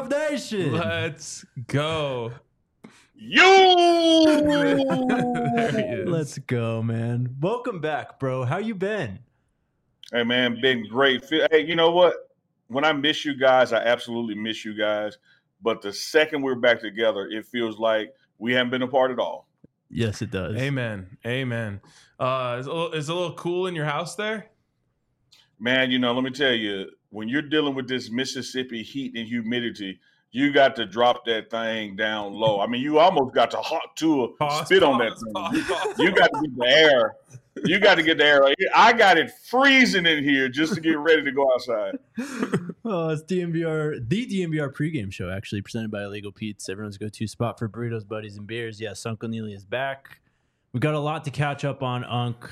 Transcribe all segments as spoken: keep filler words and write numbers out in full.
Buff Nation. Let's go. You. There he is. Let's go, man. Welcome back, bro. How you been? Hey, man, been great. Hey, you know what? When I miss you guys, I absolutely miss you guys. But the second we're back together, it feels like we haven't been apart at all. Yes, it does. Amen. Amen. Uh, is, a little, is it a little cool in your house there? Man, you know, let me tell you, when you're dealing with this Mississippi heat and humidity, you got to drop that thing down low. I mean, you almost got to hot to a Pause, spit on pause, that thing. pause, You, pause. you got to get the air. You got to get the air. I got it freezing in here just to get ready to go outside. Oh, it's D M V R, the D M V R pregame show, actually, presented by Illegal Pete's, everyone's go-to spot for burritos, buddies, and beers. Yes, Uncle Neely is back. We've got a lot to catch up on, Unc.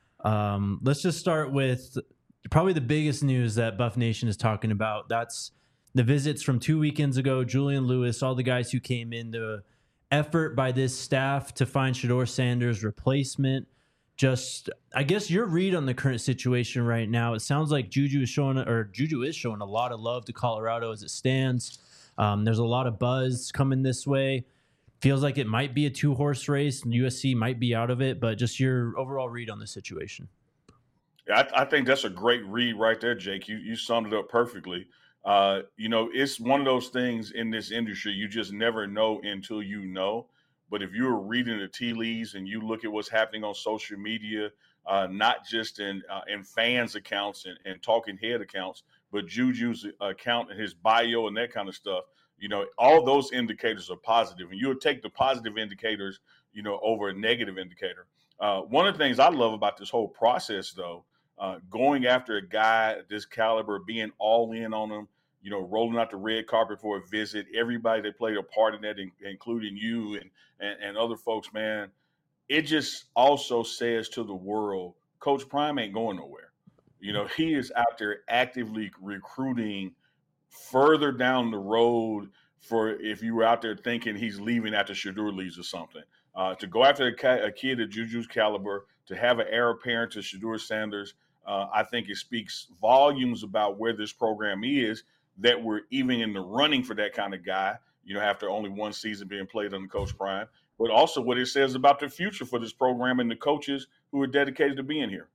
Um, let's just start with probably the biggest news that Buff Nation is talking about. That's the visits from two weekends ago, Julian Lewis, all the guys who came in, the effort by this staff to find Shedeur Sanders' replacement. Just, I guess your read on the current situation right now. It sounds like Juju is showing, or Juju is showing a lot of love to Colorado as it stands. Um, there's a lot of buzz coming this way. Feels like it might be a two-horse race, and U S C might be out of it. But just your overall read on the situation. I, I think that's a great read right there, Jake. You you summed it up perfectly. Uh, you know, it's one of those things in this industry you just never know until you know. But if you're reading the tea leaves and you look at what's happening on social media, uh, not just in uh, in fans' accounts and, and talking head accounts, but Juju's account and his bio and that kind of stuff, you know, all those indicators are positive. And you'll take the positive indicators, you know, over a negative indicator. Uh, one of the things I love about this whole process, though, uh, going after a guy at this caliber, being all in on him, you know, rolling out the red carpet for a visit, everybody that played a part in that, in, including you and, and, and other folks, man, it just also says to the world, Coach Prime ain't going nowhere. You know, he is out there actively recruiting further down the road for if you were out there thinking he's leaving after Shedeur leaves or something. Uh, to go after a, ca- a kid of Juju's caliber, to have an heir apparent to Shedeur Sanders, uh, I think it speaks volumes about where this program is, that we're even in the running for that kind of guy, you know, after only one season being played under Coach Prime, but also what it says about the future for this program and the coaches who are dedicated to being here.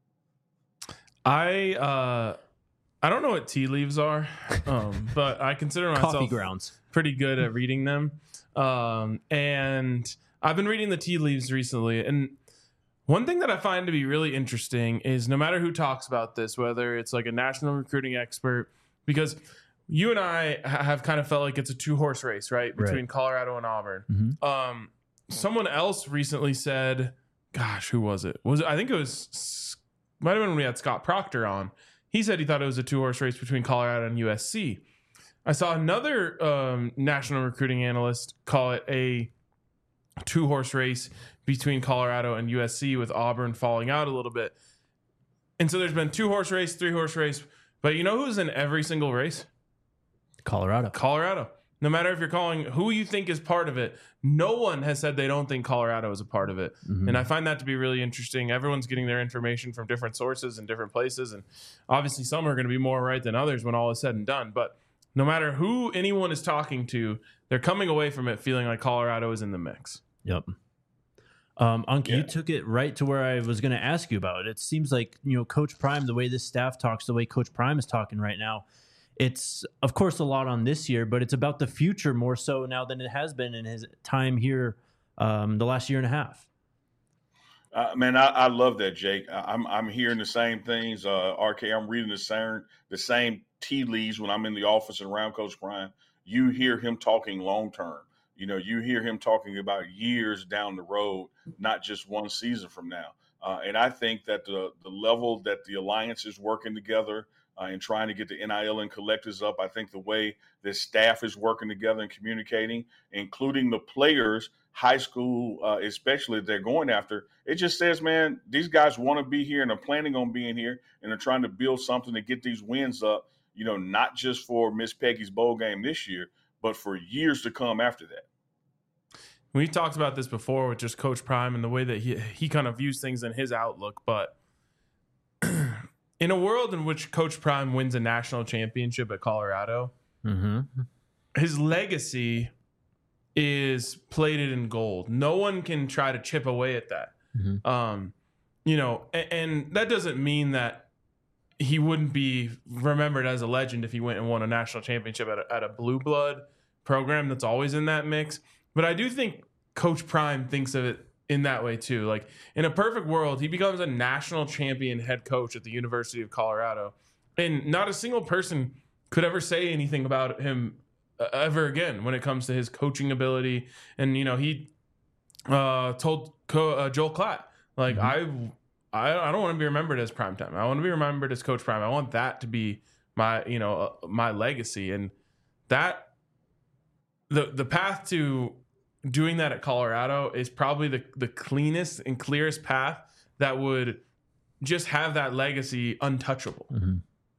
I uh, I don't know what tea leaves are, um, but I consider myself Coffee grounds. pretty good at reading them. Um, and I've been reading the tea leaves recently, and one thing that I find to be really interesting is no matter who talks about this, whether it's like a national recruiting expert, because you and I have kind of felt like it's a two-horse race, right, between Right. Colorado and Auburn. Mm-hmm. Um, someone else recently said, gosh, who was it? Was it, I think it was, might have been when we had Scott Proctor on. He said he thought it was a two-horse race between Colorado and U S C. I saw another um, national recruiting analyst call it a two-horse race between Colorado and U S C, with Auburn falling out a little bit. And so there's been two-horse race, three-horse race. But you know who's in every single race? Colorado. Colorado. No matter if you're calling who you think is part of it, no one has said they don't think Colorado is a part of it. Mm-hmm. And I find that to be really interesting. Everyone's getting their information from different sources and different places. And obviously some are going to be more right than others when all is said and done. But no matter who anyone is talking to, they're coming away from it feeling like Colorado is in the mix. Yep. Um, Unc, Yeah. you took it right to where I was going to ask you about it. It seems like, you know, Coach Prime, the way this staff talks, the way Coach Prime is talking right now, it's, of course, a lot on this year, but it's about the future more so now than it has been in his time here um, the last year and a half. Uh, man, I, I love that, Jake. I, I'm I'm hearing the same things. Uh, R K, I'm reading the same the same tea leaves when I'm in the office and around Coach Prime. You hear him talking long term. You know, you hear him talking about years down the road, not just one season from now. Uh, and I think that the the level that the alliance is working together uh, and trying to get the N I L and collectives up, I think the way this staff is working together and communicating, including the players, high school, uh, especially if they're going after, it just says, man, these guys want to be here and are planning on being here and are trying to build something to get these wins up, you know, not just for Miss Peggy's bowl game this year, but for years to come after that. We talked about this before with just Coach Prime and the way that he he kind of views things in his outlook. But in a world in which Coach Prime wins a national championship at Colorado, Mm-hmm. his legacy is plated in gold. No one can try to chip away at that. Mm-hmm. Um, you know, and, and that doesn't mean that he wouldn't be remembered as a legend if he went and won a national championship at a, at a blue blood program that's always in that mix. But I do think Coach Prime thinks of it in that way too. Like, in a perfect world, he becomes a national champion head coach at the University of Colorado, and not a single person could ever say anything about him uh, ever again when it comes to his coaching ability. And, you know, he uh, told Co- uh, Joel Klatt, like, mm-hmm. I, I I don't want to be remembered as Primetime. I want to be remembered as Coach Prime. I want that to be my, you know, uh, my legacy. And that, the the path to doing that at Colorado is probably the, the cleanest and clearest path that would just have that legacy untouchable. Mm-hmm.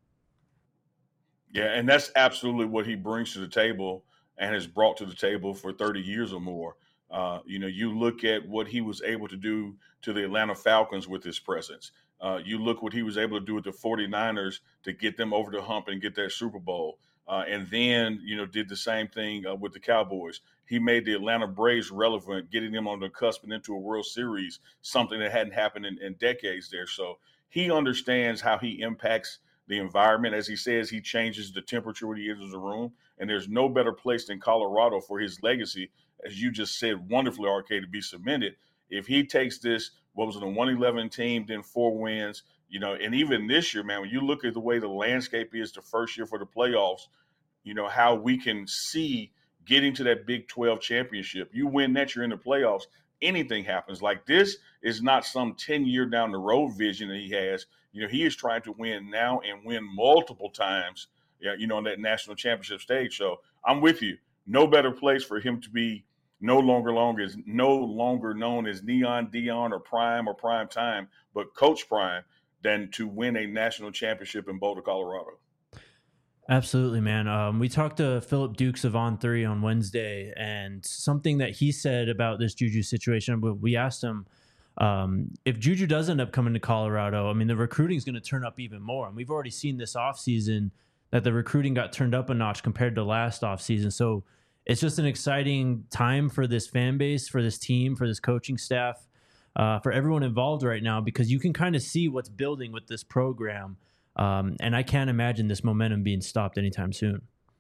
Yeah, and that's absolutely what he brings to the table and has brought to the table for thirty years or more. Uh, you know, you look at what he was able to do to the Atlanta Falcons with his presence. Uh, you look what he was able to do with the 49ers to get them over the hump and get that Super Bowl. Uh, and then, you know, did the same thing uh, with the Cowboys. He made the Atlanta Braves relevant, getting them on the cusp and into a World Series, something that hadn't happened in, in decades there. So he understands how he impacts the environment. As he says, he changes the temperature when he enters the room. And there's no better place than Colorado for his legacy, as you just said wonderfully, R K, to be cemented. If he takes this, what was it, a one eleven team, then four wins, you know, and even this year, man, when you look at the way the landscape is the first year for the playoffs, you know, how we can see getting to that Big twelve championship. You win that, you're in the playoffs. Anything happens. Like, this is not some ten-year down the road vision that he has. You know, he is trying to win now and win multiple times, yeah, you know, on that national championship stage. So I'm with you. No better place for him to be no longer long as no longer known as Neon Deion or Prime or Prime Time, but Coach Prime, than to win a national championship in Boulder, Colorado. Absolutely, man. Um, we talked to Philip Dukes of On three on Wednesday, and something that he said about this Juju situation, we asked him, um, if Juju does end up coming to Colorado, I mean, the recruiting is going to turn up even more. And we've already seen this offseason that the recruiting got turned up a notch compared to last offseason. So it's just an exciting time for this fan base, for this team, for this coaching staff, uh, for everyone involved right now, because you can kind of see what's building with this program. Um, and I can't imagine this momentum being stopped anytime soon.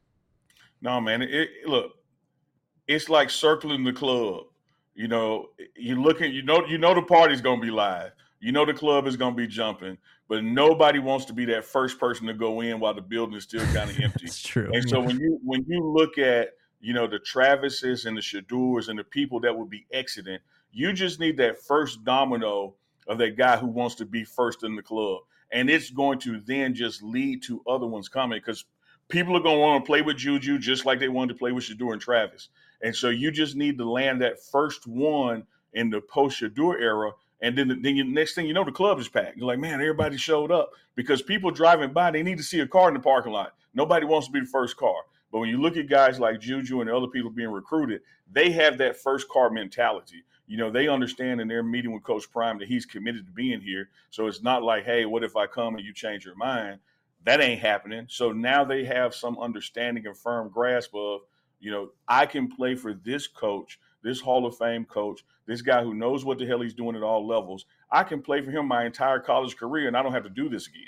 No, man. It, it, look, it's like circling the club. You know, you looking, you know, you know the party's gonna be live. You know the club is gonna be jumping, but nobody wants to be that first person to go in while the building is still kind of empty. It's true. And so when you when you look at, you know, the Travises and the Shadors and the people that will be exiting, you just need that first domino of that guy who wants to be first in the club. And it's going to then just lead to other ones coming, because people are going to want to play with Juju just like they wanted to play with Shador and Travis. And so you just need to land that first one in the post-Shador era. And then, then you, next thing you know, the club is packed. You're like, man, everybody showed up, because people driving by, they need to see a car in the parking lot. Nobody wants to be the first car. But when you look at guys like Juju and the other people being recruited, they have that first car mentality. You know, they understand in their meeting with Coach Prime that he's committed to being here. So it's not like, hey, what if I come and you change your mind? That ain't happening. So now they have some understanding and firm grasp of, you know, I can play for this coach, this Hall of Fame coach, this guy who knows what the hell he's doing at all levels. I can play for him my entire college career, and I don't have to do this again.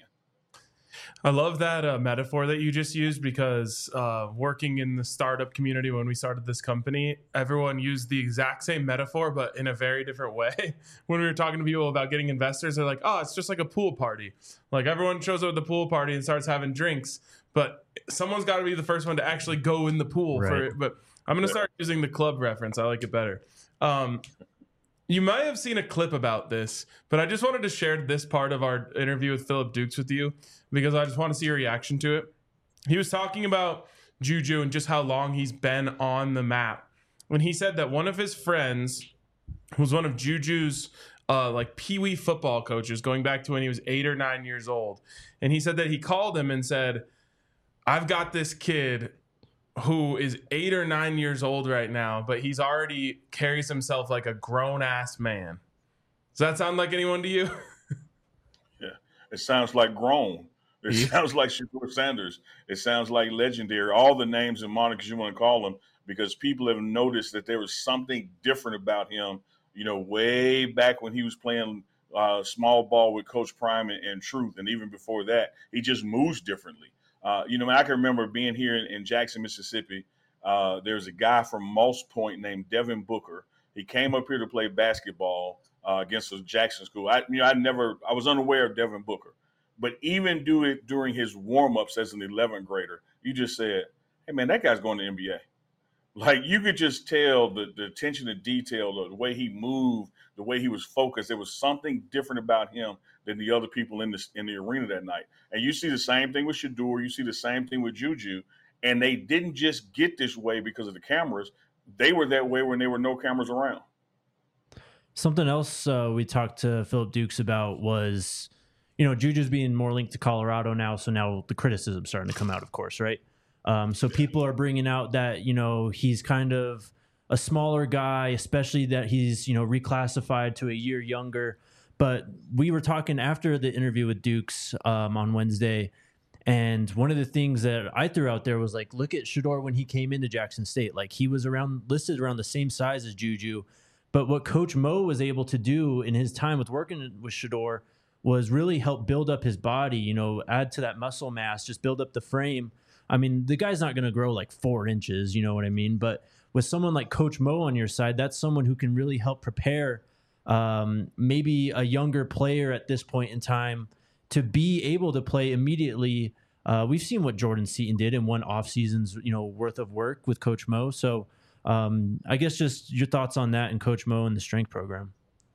I love that uh, metaphor that you just used, because uh, working in the startup community when we started this company, everyone used the exact same metaphor, but in a very different way. When we were talking to people about getting investors, they're like, oh, it's just like a pool party. Like, everyone shows up at the pool party and starts having drinks, but someone's got to be the first one to actually go in the pool. Right. For it. But I'm going to start using the club reference. I like it better. Um, You might have seen a clip about this, but I just wanted to share this part of our interview with Philip Dukes with you, because I just want to see your reaction to it. He was talking about Juju and just how long he's been on the map, when he said that one of his friends, who was one of Juju's uh, like peewee football coaches going back to when he was eight or nine years old, and he said that he called him and said, I've got this kid who is eight or nine years old right now, but he's already carries himself like a grown-ass man. Does that sound like anyone to you? Yeah, it sounds like grown. It sounds like Shedeur Sanders. It sounds like legendary. All the names and monikers you want to call him, because people have noticed that there was something different about him, you know, way back when he was playing uh, small ball with Coach Prime and, and Truth. And even before that, he just moves differently. Uh, you know, I can remember being here in, in Jackson, Mississippi. Uh, there's a guy from Moss Point named Devin Booker. He came up here to play basketball uh, against the Jackson school. I, you know, I never, I was unaware of Devin Booker. But even do it during his warm-ups as an eleventh grader, you just said, hey, man, that guy's going to the N B A. Like, you could just tell the, the attention to detail, the, the way he moved, the way he was focused. There was something different about him than the other people in the, in the arena that night. And you see the same thing with Shedeur. You see the same thing with Juju. And they didn't just get this way because of the cameras. They were that way when there were no cameras around. Something else uh, we talked to Philip Dukes about was – you know, Juju's being more linked to Colorado now, so now the criticism's starting to come out, of course, right? Um, so people are bringing out that, you know, he's kind of a smaller guy, especially that he's, you know, reclassified to a year younger. But we were talking after the interview with Dukes um, on Wednesday, and one of the things that I threw out there was like, look at Shedeur when he came into Jackson State. Like, he was around listed around the same size as Juju. But what Coach Mo was able to do in his time with working with Shedeur was really help build up his body, you know, add to that muscle mass, just build up the frame. I mean, the guy's not going to grow like four inches, you know what I mean? But with someone like Coach Mo on your side, that's someone who can really help prepare um, maybe a younger player at this point in time to be able to play immediately. Uh, we've seen what Jordan Seaton did in one offseason's, you know, worth of work with Coach Mo. So um, I guess just your thoughts on that and Coach Mo and the strength program.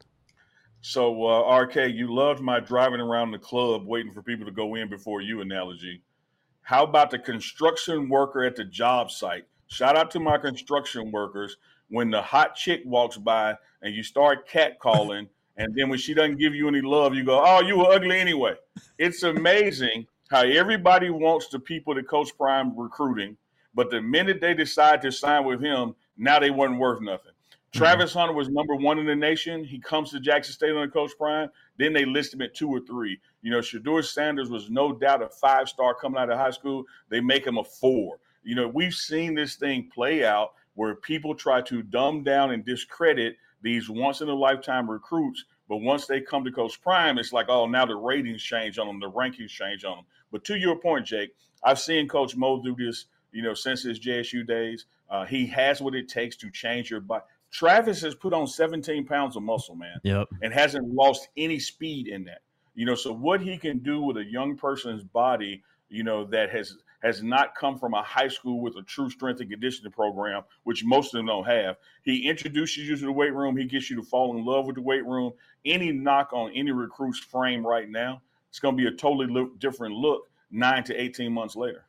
So, uh, R K, you loved my driving around the club waiting for people to go in before you analogy. How about the construction worker at the job site? Shout out to my construction workers. When the hot chick walks by and you start catcalling, and then when she doesn't give you any love, you go, oh, you were ugly anyway. It's amazing how everybody wants the people that Coach Prime recruiting, but the minute they decide to sign with him, now they wasn't worth nothing. Travis Hunter was number one in the nation. He comes to Jackson State under Coach Prime. Then they list him at two or three. You know, Shedeur Sanders was no doubt a five-star coming out of high school. They make him a four. You know, we've seen this thing play out where people try to dumb down and discredit these once-in-a-lifetime recruits. But once they come to Coach Prime, it's like, oh, now the ratings change on them, the rankings change on them. But to your point, Jake, I've seen Coach Mo do this, you know, since his J S U days. Uh, he has what it takes to change your body. Travis has put on seventeen pounds of muscle, man, yep. and hasn't lost any speed in that. You know, so what he can do with a young person's body, you know, that has has not come from a high school with a true strength and conditioning program, which most of them don't have. He introduces you to the weight room. He gets you to fall in love with the weight room. Any knock on any recruit's frame right now, it's going to be a totally look, different look nine to eighteen months later.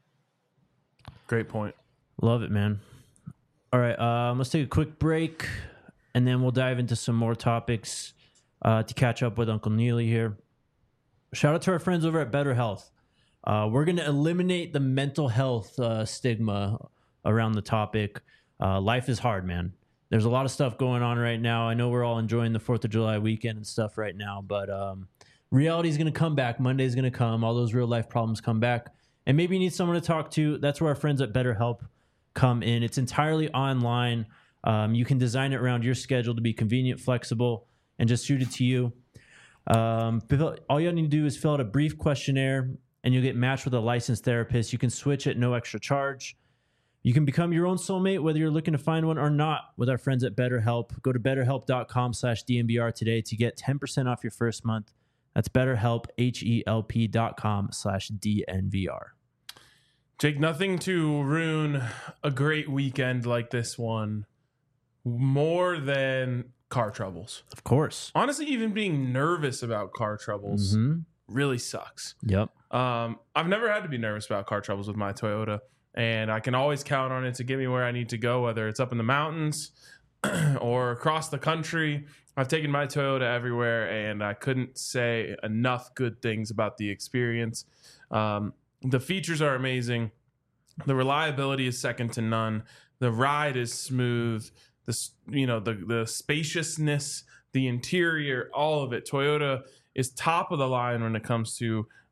Great point. Love it, man. All right, um, let's take a quick break, and then we'll dive into some more topics uh, to catch up with Uncle Neely here. Shout out to our friends over at Better Health. Uh, we're going to eliminate the mental health uh, stigma around the topic. Uh, life is hard, man. There's a lot of stuff going on right now. I know we're all enjoying the fourth of July weekend and stuff right now, but um, reality is going to come back. Monday is going to come. All those real-life problems come back. And maybe you need someone to talk to. That's where our friends at BetterHelp come in. It's entirely online. Um, you can design it around your schedule to be convenient, flexible, and just suit it to you. Um, all you need to do is fill out a brief questionnaire, and you'll get matched with a licensed therapist. You can switch at no extra charge. You can become your own soulmate, whether you're looking to find one or not, with our friends at BetterHelp. Go to betterhelp.com slash DNVR today to get ten percent off your first month. That's BetterHelp, H-E-L-P dot com slash DNVR. Jake, nothing to ruin a great weekend like this one more than car troubles. Of course. Honestly, even being nervous about car troubles mm-hmm. really sucks. Yep. Um, I've never had to be nervous about car troubles with my Toyota, and I can always count on it to get me where I need to go, whether it's up in the mountains or across the country. I've taken my Toyota everywhere, and I couldn't say enough good things about the experience. Um, The features are amazing. The reliability is second to none. The ride is smooth. The you know the the spaciousness, the interior, all of it. Toyota is top of the line when it comes to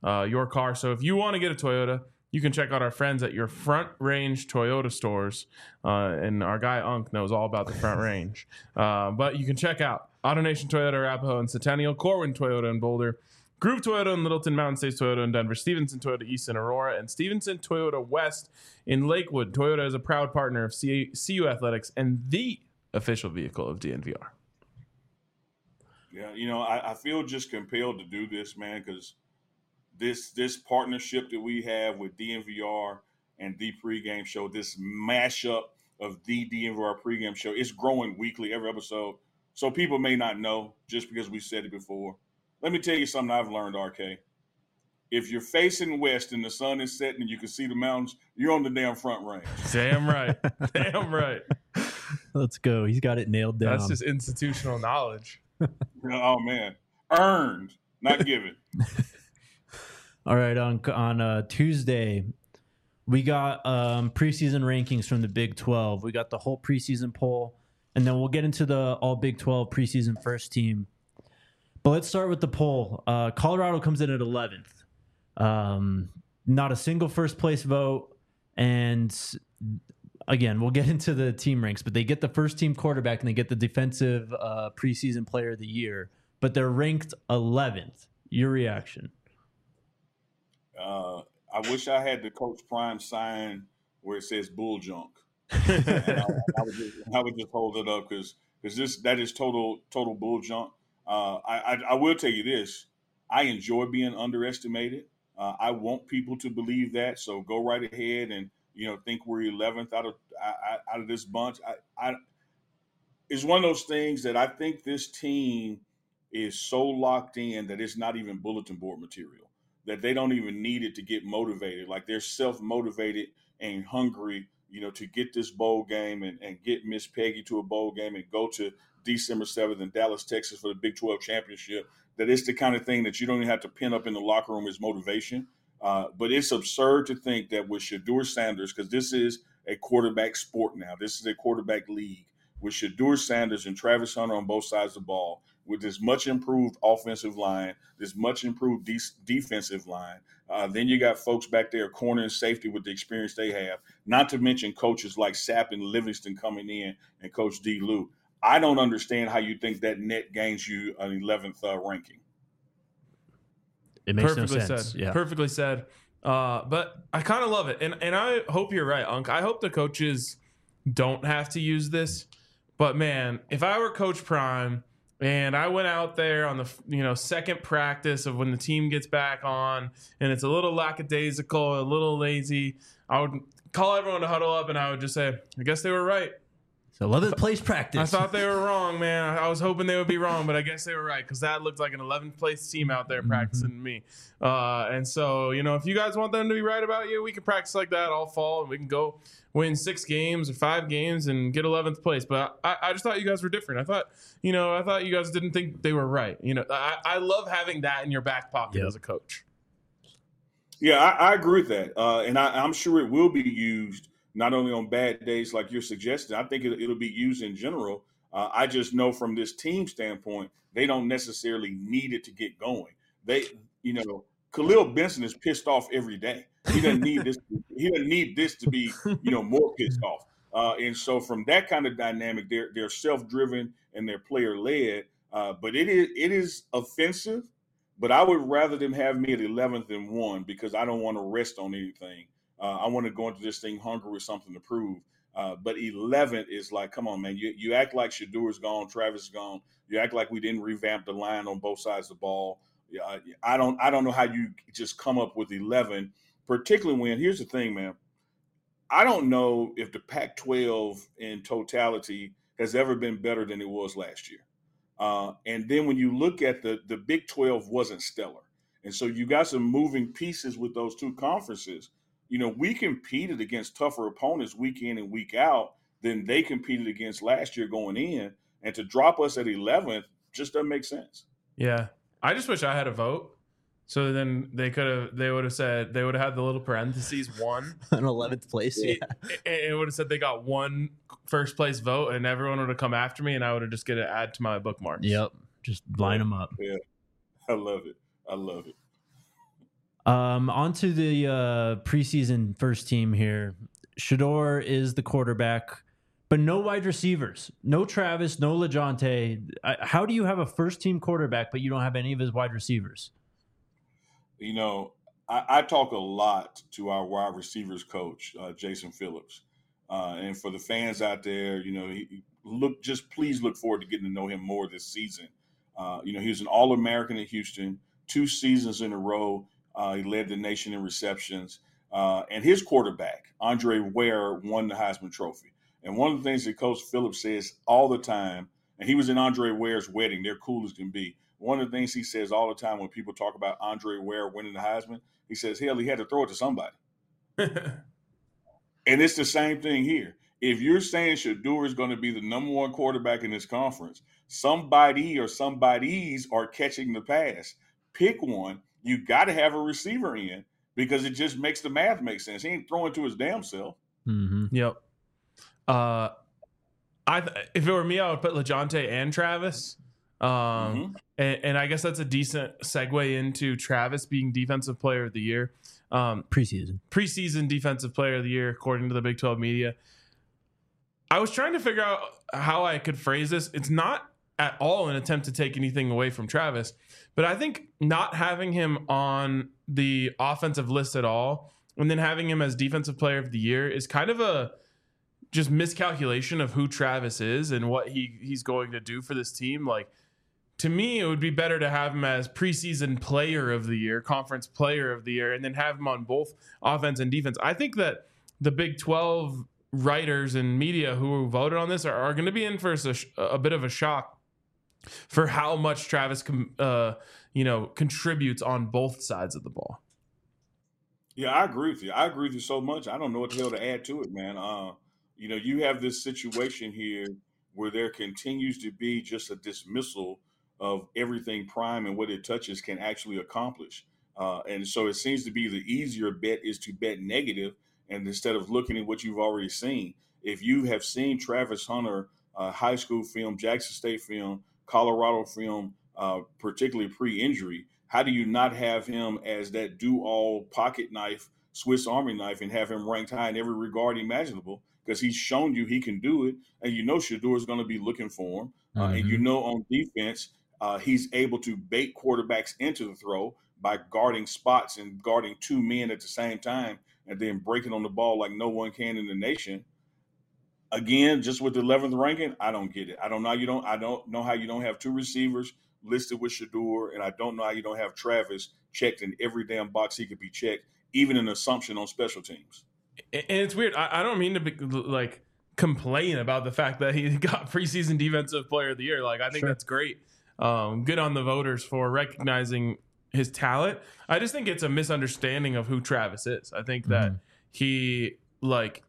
uh, your car. So if you want to get a Toyota, you can check out our friends at your Front Range Toyota stores. Uh, and our guy Unk knows all about the Front Range. Uh, but you can check out AutoNation Toyota, Arapahoe and Centennial, Corwin Toyota in Boulder, Groove Toyota in Littleton, Mountain States Toyota in Denver, Stevenson Toyota East in Aurora, and Stevenson Toyota West in Lakewood. Toyota is a proud partner of C- CU Athletics and the official vehicle of D N V R. Yeah, you know, I, I feel just compelled to do this, man, because this this partnership that we have with D N V R and the pregame show, this mashup of the D N V R pregame show, it's growing weekly, every episode. So people may not know just because we said it before. Let me tell you something I've learned, R K. If you're facing west and the sun is setting and you can see the mountains, you're on the damn Front Range. Damn right. Damn right. Let's go. He's got it nailed down. That's just institutional knowledge. Oh, man. Earned, not given. All right. On, on uh, Tuesday, we got um, preseason rankings from the Big twelve. We got the whole preseason poll, and then we'll get into the all Big twelve preseason first team. But let's start with the poll. Uh, Colorado comes in at eleventh. Um, not a single first place vote. And again, we'll get into the team ranks, but they get the first team quarterback and they get the defensive uh, preseason player of the year, but they're ranked eleventh. Your reaction? Uh, I wish I had the Coach Prime sign where it says bull junk. and I, I, would just, I would just hold it up because because this that is total total bull junk. Uh, I, I I will tell you this: I enjoy being underestimated. Uh, I want people to believe that. So go right ahead and you know think we're eleventh out of out of this bunch. I, I it's one of those things that I think this team is so locked in that it's not even bulletin board material. That they don't even need it to get motivated. Like they're self-motivated and hungry, you know, to get this bowl game and, and get Miss Peggy to a bowl game and go to December seventh in Dallas, Texas for the Big twelve championship. That it's the kind of thing that you don't even have to pin up in the locker room as motivation. Uh, but it's absurd to think that with Shedeur Sanders, because this is a quarterback sport now. This is a quarterback league. With Shedeur Sanders and Travis Hunter on both sides of the ball, with this much improved offensive line, this much improved de- defensive line, uh, then you got folks back there, corner and safety with the experience they have, not to mention coaches like Sapp and Livingston coming in and Coach D. Lou. I don't understand how you think that net gains you an eleventh uh, ranking. It makes Perfectly no sense. said. Yeah. Perfectly said. Uh, but I kind of love it. And and I hope you're right, Unc. I hope the coaches don't have to use this. But, man, if I were Coach Prime and I went out there on the you know second practice of when the team gets back on and it's a little lackadaisical, a little lazy, I would call everyone to huddle up and I would just say, I guess they were right. So eleventh place practice. I thought they were wrong, man. I was hoping they would be wrong, but I guess they were right because that looked like an eleventh place team out there practicing mm-hmm. me. Uh, and so, you know, if you guys want them to be right about you, we can practice like that all fall and we can go win six games or five games and get eleventh place. But I, I just thought you guys were different. I thought, you know, I thought you guys didn't think they were right. You know, I, I love having that in your back pocket yep. as a coach. Yeah, I, I agree with that. Uh, and I, I'm sure it will be used not only on bad days like you're suggesting. I think it, it'll be used in general. Uh, I just know from this team standpoint, they don't necessarily need it to get going. They, you know, Khalil Benson is pissed off every day. He doesn't need this. He doesn't need this to be, you know, more pissed off. Uh, and so from that kind of dynamic, they're they're self-driven and they're player-led. Uh, but it is it is offensive. But I would rather them have me at eleventh and one because I don't want to rest on anything. Uh, I want to go into this thing hungry with something to prove. Uh, but eleventh is like, come on, man. You you act like Shedeur's gone, Travis is gone. You act like we didn't revamp the line on both sides of the ball. Yeah, I don't I don't know how you just come up with eleven, particularly when, here's the thing, man. I don't know if the Pac twelve in totality has ever been better than it was last year. Uh, and then when you look at the, the Big twelve wasn't stellar. And so you got some moving pieces with those two conferences. You know, we competed against tougher opponents week in and week out than they competed against last year going in. And to drop us at eleventh just doesn't make sense. Yeah. I just wish I had a vote. So then they could have, they would have said, they would have had the little parentheses one. An eleventh place. Yeah. It, it would have said they got one first place vote and everyone would have come after me and I would have just get to add to my bookmarks. Yep. Just line them up. Yeah. I love it. I love it. Um, on to the uh, preseason first team here. Shedeur is the quarterback, but no wide receivers. No Travis, no LeJounte. I- How do you have a first team quarterback, but you don't have any of his wide receivers? You know, I, I talk a lot to our wide receivers coach, uh, Jason Phillips. Uh, and for the fans out there, you know, he, look, just please look forward to getting to know him more this season. Uh, you know, he was an All-American at Houston, two seasons in a row. Uh, he led the nation in receptions. Uh, and his quarterback, Andre Ware, won the Heisman Trophy. And one of the things that Coach Phillips says all the time, and he was in Andre Ware's wedding, they're cool as can be. One of the things he says all the time when people talk about Andre Ware winning the Heisman, he says, hell, he had to throw it to somebody. And it's the same thing here. If you're saying Shedeur is going to be the number one quarterback in this conference, somebody or somebodies are catching the pass. Pick one. You got to have a receiver in because it just makes the math make sense. He ain't throwing to his damn self. Mm-hmm. Yep. Uh, I if it were me, I would put LeJounte and Travis. Um, mm-hmm. and, and I guess that's a decent segue into Travis being Defensive Player of the Year. Um, preseason. Preseason Defensive Player of the Year, according to the Big twelve media. I was trying to figure out how I could phrase this. It's not at all an attempt to take anything away from Travis, but I think not having him on the offensive list at all and then having him as Defensive Player of the Year is kind of a just miscalculation of who Travis is and what he he's going to do for this team. Like, to me, it would be better to have him as preseason player of the year, conference player of the year, and then have him on both offense and defense. I think that the Big twelve writers and media who voted on this are, are going to be in for a, a bit of a shock for how much Travis, com, uh, you know, contributes on both sides of the ball. Yeah, I agree with you. I agree with you so much. I don't know what the hell to add to it, man. Uh, you know, you have this situation here where there continues to be just a dismissal of everything Prime and what it touches can actually accomplish. Uh, and so it seems to be the easier bet is to bet negative, and instead of looking at what you've already seen. If you have seen Travis Hunter, uh, high school film, Jackson State film, Colorado film, uh, particularly pre-injury, how do you not have him as that do-all pocket knife, Swiss Army knife, and have him ranked high in every regard imaginable? Because he's shown you he can do it, and you know Shedeur is going to be looking for him. Uh, mm-hmm. And you know on defense, Uh, he's able to bait quarterbacks into the throw by guarding spots and guarding two men at the same time and then breaking on the ball like no one can in the nation. Again, just with the eleventh ranking, I don't get it. I don't know how you don't. I don't know how you don't have two receivers listed with Shedeur, and I don't know how you don't have Travis checked in every damn box he could be checked, even an assumption on special teams. And it's weird. I, I don't mean to be like complain about the fact that he got preseason Defensive Player of the Year. Like, I think sure. that's great. Um, good on the voters for recognizing his talent. I just think it's a misunderstanding of who Travis is. I think that mm-hmm. he like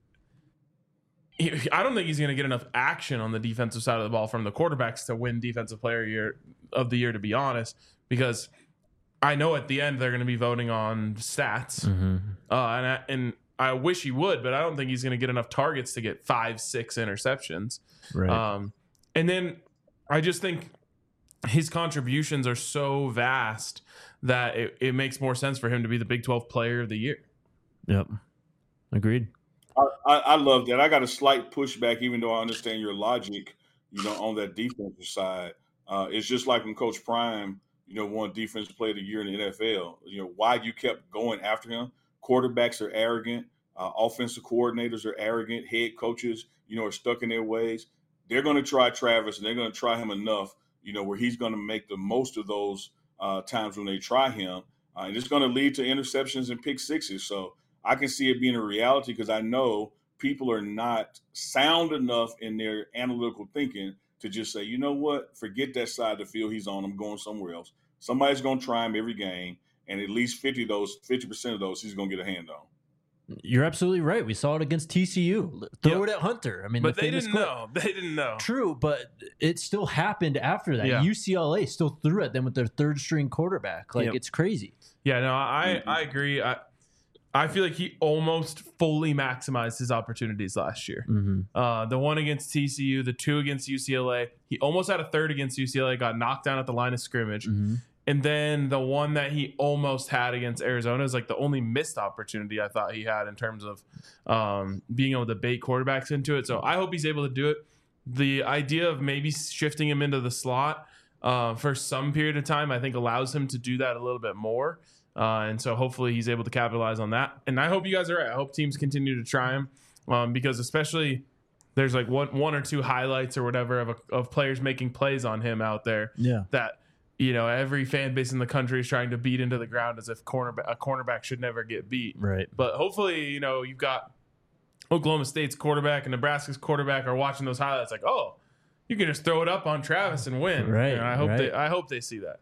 he, I don't think he's going to get enough action on the defensive side of the ball from the quarterbacks to win Defensive Player year of the Year, to be honest, because I know at the end they're going to be voting on stats. Mm-hmm. Uh, and I, and I wish he would, but I don't think he's going to get enough targets to get five, six interceptions. Right. Um, and then I just think his contributions are so vast that it, it makes more sense for him to be the Big twelve Player of the Year. Yep. Agreed. I, I, I love that. I got a slight pushback, even though I understand your logic, you know, on that defensive side. Uh, it's just like when Coach Prime, you know, won Defensive Player of the Year in the N F L. You know, why you kept going after him. Quarterbacks are arrogant. Uh, offensive coordinators are arrogant. Head coaches, you know, are stuck in their ways. They're going to try Travis, and they're going to try him enough, you know, where he's going to make the most of those uh, times when they try him. Uh, and it's going to lead to interceptions and pick sixes. So I can see it being a reality because I know people are not sound enough in their analytical thinking to just say, you know what, forget that side of the field he's on. I'm going somewhere else. Somebody's going to try him every game, and at least fifty of those, fifty percent of those he's going to get a hand on. You're absolutely right. We saw it against T C U. Throw yep. it at Hunter. I mean, but the they didn't clip. know. They didn't know. True, but it still happened after that. Yeah. U C L A still threw at them with their third string quarterback. Like, yep. it's crazy. Yeah, no, I, I agree. I I feel like he almost fully maximized his opportunities last year. Mm-hmm. Uh, the one against T C U, the two against U C L A. He almost had a third against U C L A, got knocked down at the line of scrimmage. Mm-hmm. And then the one that he almost had against Arizona is like the only missed opportunity I thought he had in terms of um, being able to bait quarterbacks into it. So I hope he's able to do it. The idea of maybe shifting him into the slot uh, for some period of time, I think allows him to do that a little bit more. Uh, and so hopefully he's able to capitalize on that. And I hope you guys are right. I hope teams continue to try him um, because especially there's like one, one or two highlights or whatever of, a, of players making plays on him out there. Yeah. That, you know, every fan base in the country is trying to beat into the ground as if cornerback, a cornerback should never get beat. Right. But hopefully, you know, you've got Oklahoma State's quarterback and Nebraska's quarterback are watching those highlights like, oh, you can just throw it up on Travis and win. Right. And I hope right. they I hope they see that.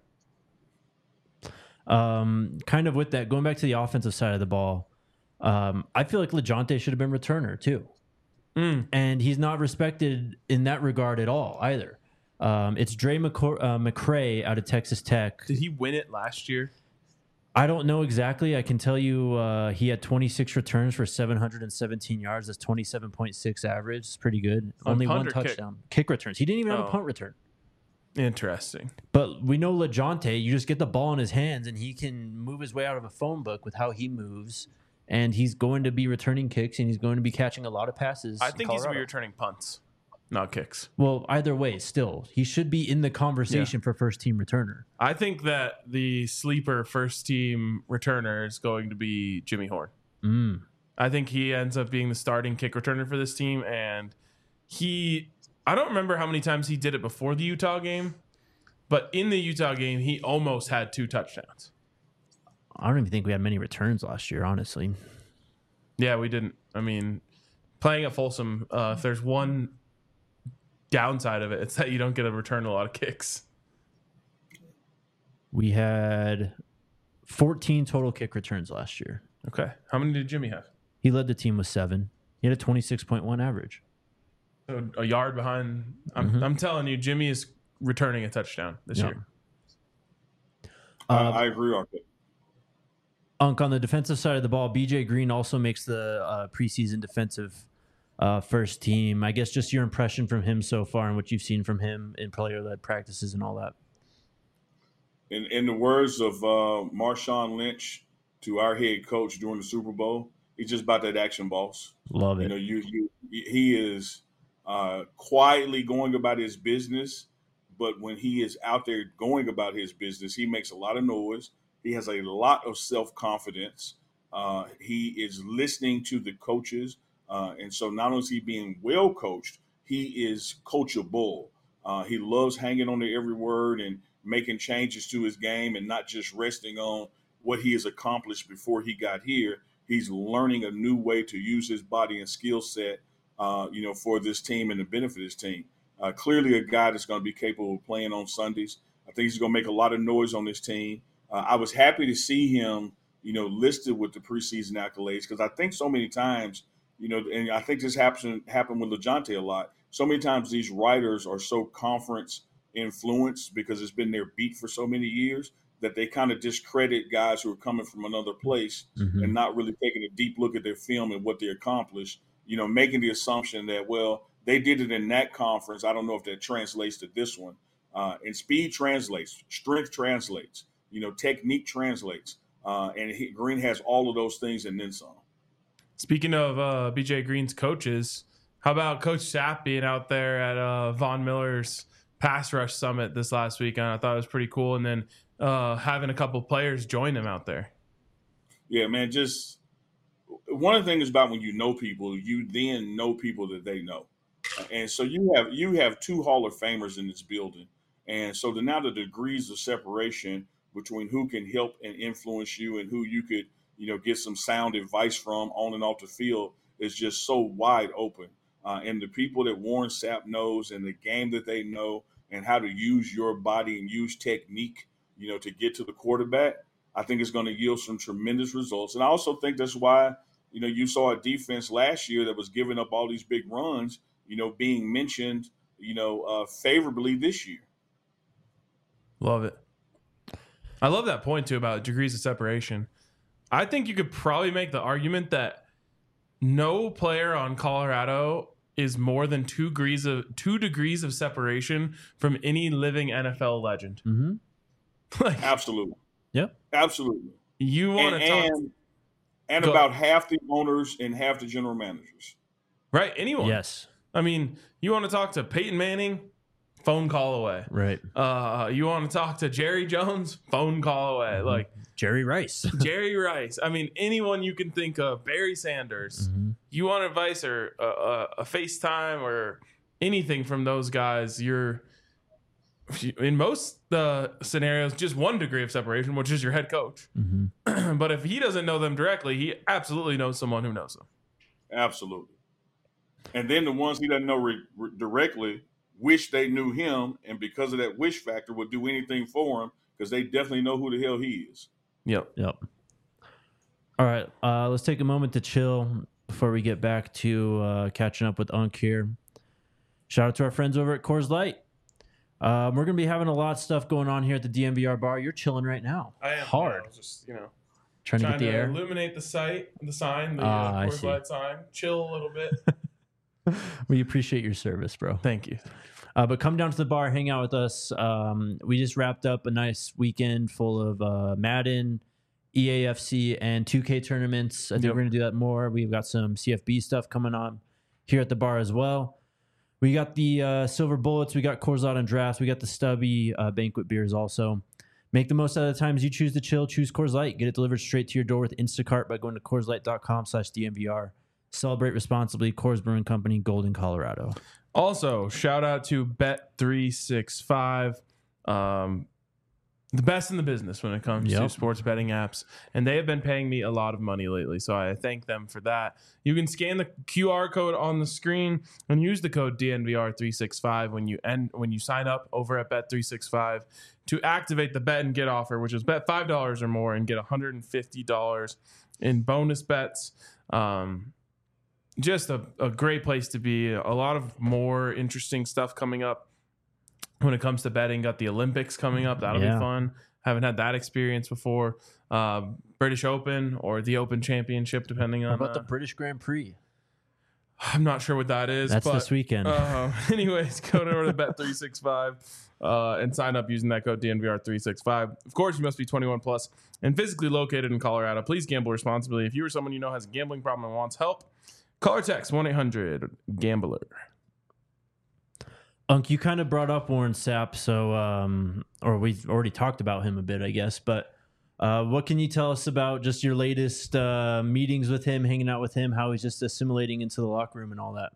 Um, kind of with that, going back to the offensive side of the ball, um, I feel like LeJohntay should have been returner too. Mm. And he's not respected in that regard at all either. Um, it's Dre McCor- uh, McCray out of Texas Tech. Did he win it last year? I don't know exactly. I can tell you uh, he had twenty-six returns for seven hundred seventeen yards. That's twenty-seven point six average. It's pretty good. On Only punt one or kick? touchdown. Kick? returns. He didn't even have Oh. a punt return. Interesting. But we know LeJohntay, you just get the ball in his hands and he can move his way out of a phone book with how he moves. And he's going to be returning kicks and he's going to be catching a lot of passes. I in think he's going to Colorado. be returning punts, not kicks. Well, either way, still, he should be in the conversation for first team returner. I think that the sleeper first team returner is going to be Jimmy Horn. Mm. I think he ends up being the starting kick returner for this team. And he, I don't remember how many times he did it before the Utah game, but in the Utah game, he almost had two touchdowns. I don't even think we had many returns last year, honestly. Yeah, we didn't. I mean, playing at Folsom, uh, if there's one downside of it, it's that you don't get to return a lot of kicks. We had fourteen total kick returns last year. Okay. How many did Jimmy have? He led the team with seven. He had a twenty-six point one average. So a yard behind. I'm, Mhm. I'm telling you, Jimmy is returning a touchdown this Yeah. year. I, Uh, I agree on that. Unk, on the defensive side of the ball, B J Green also makes the uh, preseason defensive uh, first team. I guess just your impression from him so far and what you've seen from him in player-led practices and all that. In, in the words of uh, Marshawn Lynch to our head coach during the Super Bowl, he's just about that action, boss. Love it. You know, you, you he is uh, quietly going about his business, but when he is out there going about his business, he makes a lot of noise. He has a lot of self-confidence. Uh, he is listening to the coaches. Uh, and so not only is he being well coached, he is coachable. Uh, he loves hanging on to every word and making changes to his game and not just resting on what he has accomplished before he got here. He's learning a new way to use his body and skill set, uh, you know, for this team and to benefit his team. Uh, clearly a guy that's going to be capable of playing on Sundays. I think he's going to make a lot of noise on this team. Uh, I was happy to see him, you know, listed with the preseason accolades because I think so many times, you know, and I think this happened happened with LeJohntay a lot. So many times these writers are so conference influenced because it's been their beat for so many years that they kind of discredit guys who are coming from another place Mhm. and not really taking a deep look at their film and what they accomplished, you know, making the assumption that, well, they did it in that conference. I don't know if that translates to this one. Uh, and speed translates, strength translates, you know, technique translates. Uh, and he, Green has all of those things and then some. Speaking of uh, B J Green's coaches, how about Coach Sapp being out there at uh, Von Miller's pass rush summit this last weekend? I thought it was pretty cool. And then uh, having a couple players join him out there. Yeah, man, just one of the things about when you know people, you then know people that they know. And so you have you have two Hall of Famers in this building. And so the, now the degrees of separation between who can help and influence you and who you could, you know, get some sound advice from on and off the field is just so wide open. Uh, and the people that Warren Sapp knows and the game that they know and how to use your body and use technique, you know, to get to the quarterback, I think it's going to yield some tremendous results. And I also think that's why, you know, you saw a defense last year that was giving up all these big runs, you know, being mentioned, you know, uh, favorably this year. Love it. I love that point, too, about degrees of separation. I think you could probably make the argument that no player on Colorado is more than two degrees of two degrees of separation from any living N F L legend. Mm-hmm. Like, Absolutely. Yep. Absolutely. you want And to talk and, and Go- about half the owners and half the general managers. right? Anyone? Yes. I mean, you want to talk to Peyton Manning? Phone call away. Right. Uh, you want to talk to Jerry Jones? Phone call away. Mm-hmm. Like Jerry Rice. Jerry Rice. I mean, anyone you can think of. Barry Sanders. Mm-hmm. You want advice or a, a, a FaceTime or anything from those guys? You're in most uh, scenarios just one degree of separation, which is your head coach. Mm-hmm. But if he doesn't know them directly, he absolutely knows someone who knows them. Absolutely. And then the ones he doesn't know re- re- directly wish they knew him, and because of that wish factor, would do anything for him because they definitely know who the hell he is. Yep. Yep. All right. Uh, let's take a moment to chill before we get back to uh, catching up with Unk here. Shout out to our friends over at Coors Light. Um, we're going to be having a lot of stuff going on here at the D M V R bar. You're chilling right now. I am hard. I was just, you know, Trying, trying to get the air. illuminate the site, the sign, the Ah, uh, I Coors see. Light sign. Chill a little bit. We appreciate your service, bro. Thank you. Uh, but come down to the bar, hang out with us. Um, we just wrapped up a nice weekend full of uh, Madden, E A F C, and two K tournaments. I think Yep. we're going to do that more. We've got some C F B stuff coming on here at the bar as well. We got the uh, Silver Bullets. We got Coors Light on drafts. We got the Stubby uh, banquet beers also. Make the most out of the times you choose to chill. Choose Coors Light. Get it delivered straight to your door with Instacart by going to CoorsLight.com slash DMVR. Celebrate responsibly. Coors Brewing Company, Golden, Colorado. Also, shout out to Bet three sixty-five, um, the best in the business when it comes Yep. to sports betting apps. And they have been paying me a lot of money lately, so I thank them for that. You can scan the Q R code on the screen and use the code D N V R three sixty-five when you end, when you sign up over at Bet three sixty-five to activate the bet and get offer, which is bet five dollars or more and get one hundred fifty dollars in bonus bets. Um, just a, a great place to be. A lot of more interesting stuff coming up when it comes to betting. Got the Olympics coming up. That'll Yeah. be fun. Haven't had that experience before. Uh, British Open or the Open Championship, depending How on. about uh, the British Grand Prix? I'm not sure what that is. That's but, this weekend. Uh, anyways, go over to Bet three sixty-five uh, and sign up using that code D N V R three sixty-five. Of course, you must be twenty-one plus and physically located in Colorado. Please gamble responsibly. If you or someone you know has a gambling problem and wants help, call or text one eight hundred gambler. Unk, you kind of brought up Warren Sapp, so um, or we've already talked about him a bit, I guess. But uh, what can you tell us about just your latest uh, meetings with him, hanging out with him, how he's just assimilating into the locker room and all that?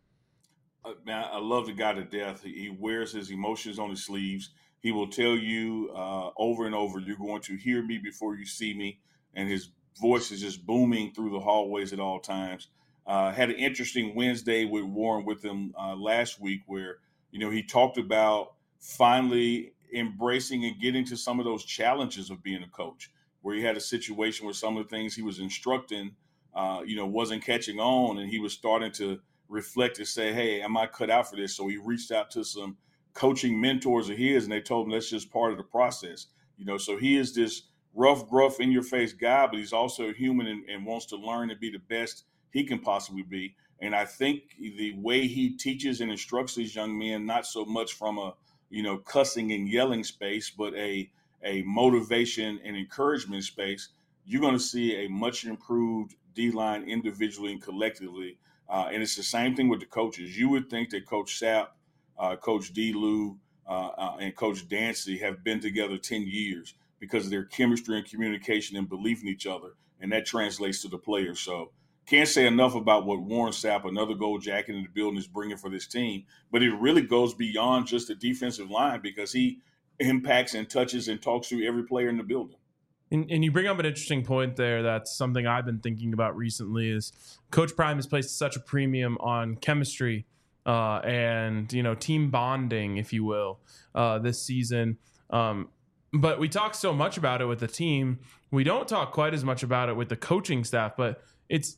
Uh, man, I love the guy to death. He, he wears his emotions on his sleeves. He will tell you uh, over and over, you're going to hear me before you see me. And his voice is just booming through the hallways at all times. Uh, had an interesting Wednesday with Warren with him uh, last week where, you know, he talked about finally embracing and getting to some of those challenges of being a coach, where he had a situation where some of the things he was instructing, uh, you know, wasn't catching on, and he was starting to reflect and say, hey, am I cut out for this? So he reached out to some coaching mentors of his, and they told him that's just part of the process. You know, so he is this rough, gruff, in-your-face guy, but he's also human and, and wants to learn and be the best he can possibly be. And I think the way he teaches and instructs these young men, not so much from a, you know, cussing and yelling space, but a a motivation and encouragement space, you're going to see a much improved D-line individually and collectively. Uh, and it's the same thing with the coaches. You would think that Coach Sapp, uh, Coach D. Lou, uh, uh, and Coach Dancy have been together ten years because of their chemistry and communication and belief in each other. And that translates to the players. So can't say enough about what Warren Sapp, another gold jacket in the building, is bringing for this team. But it really goes beyond just the defensive line because he impacts and touches and talks to every player in the building. And, and you bring up an interesting point there. That's something I've been thinking about recently is Coach Prime has placed such a premium on chemistry uh, and, you know, team bonding, if you will, uh, this season. Um, but we talk so much about it with the team. We don't talk quite as much about it with the coaching staff, but it's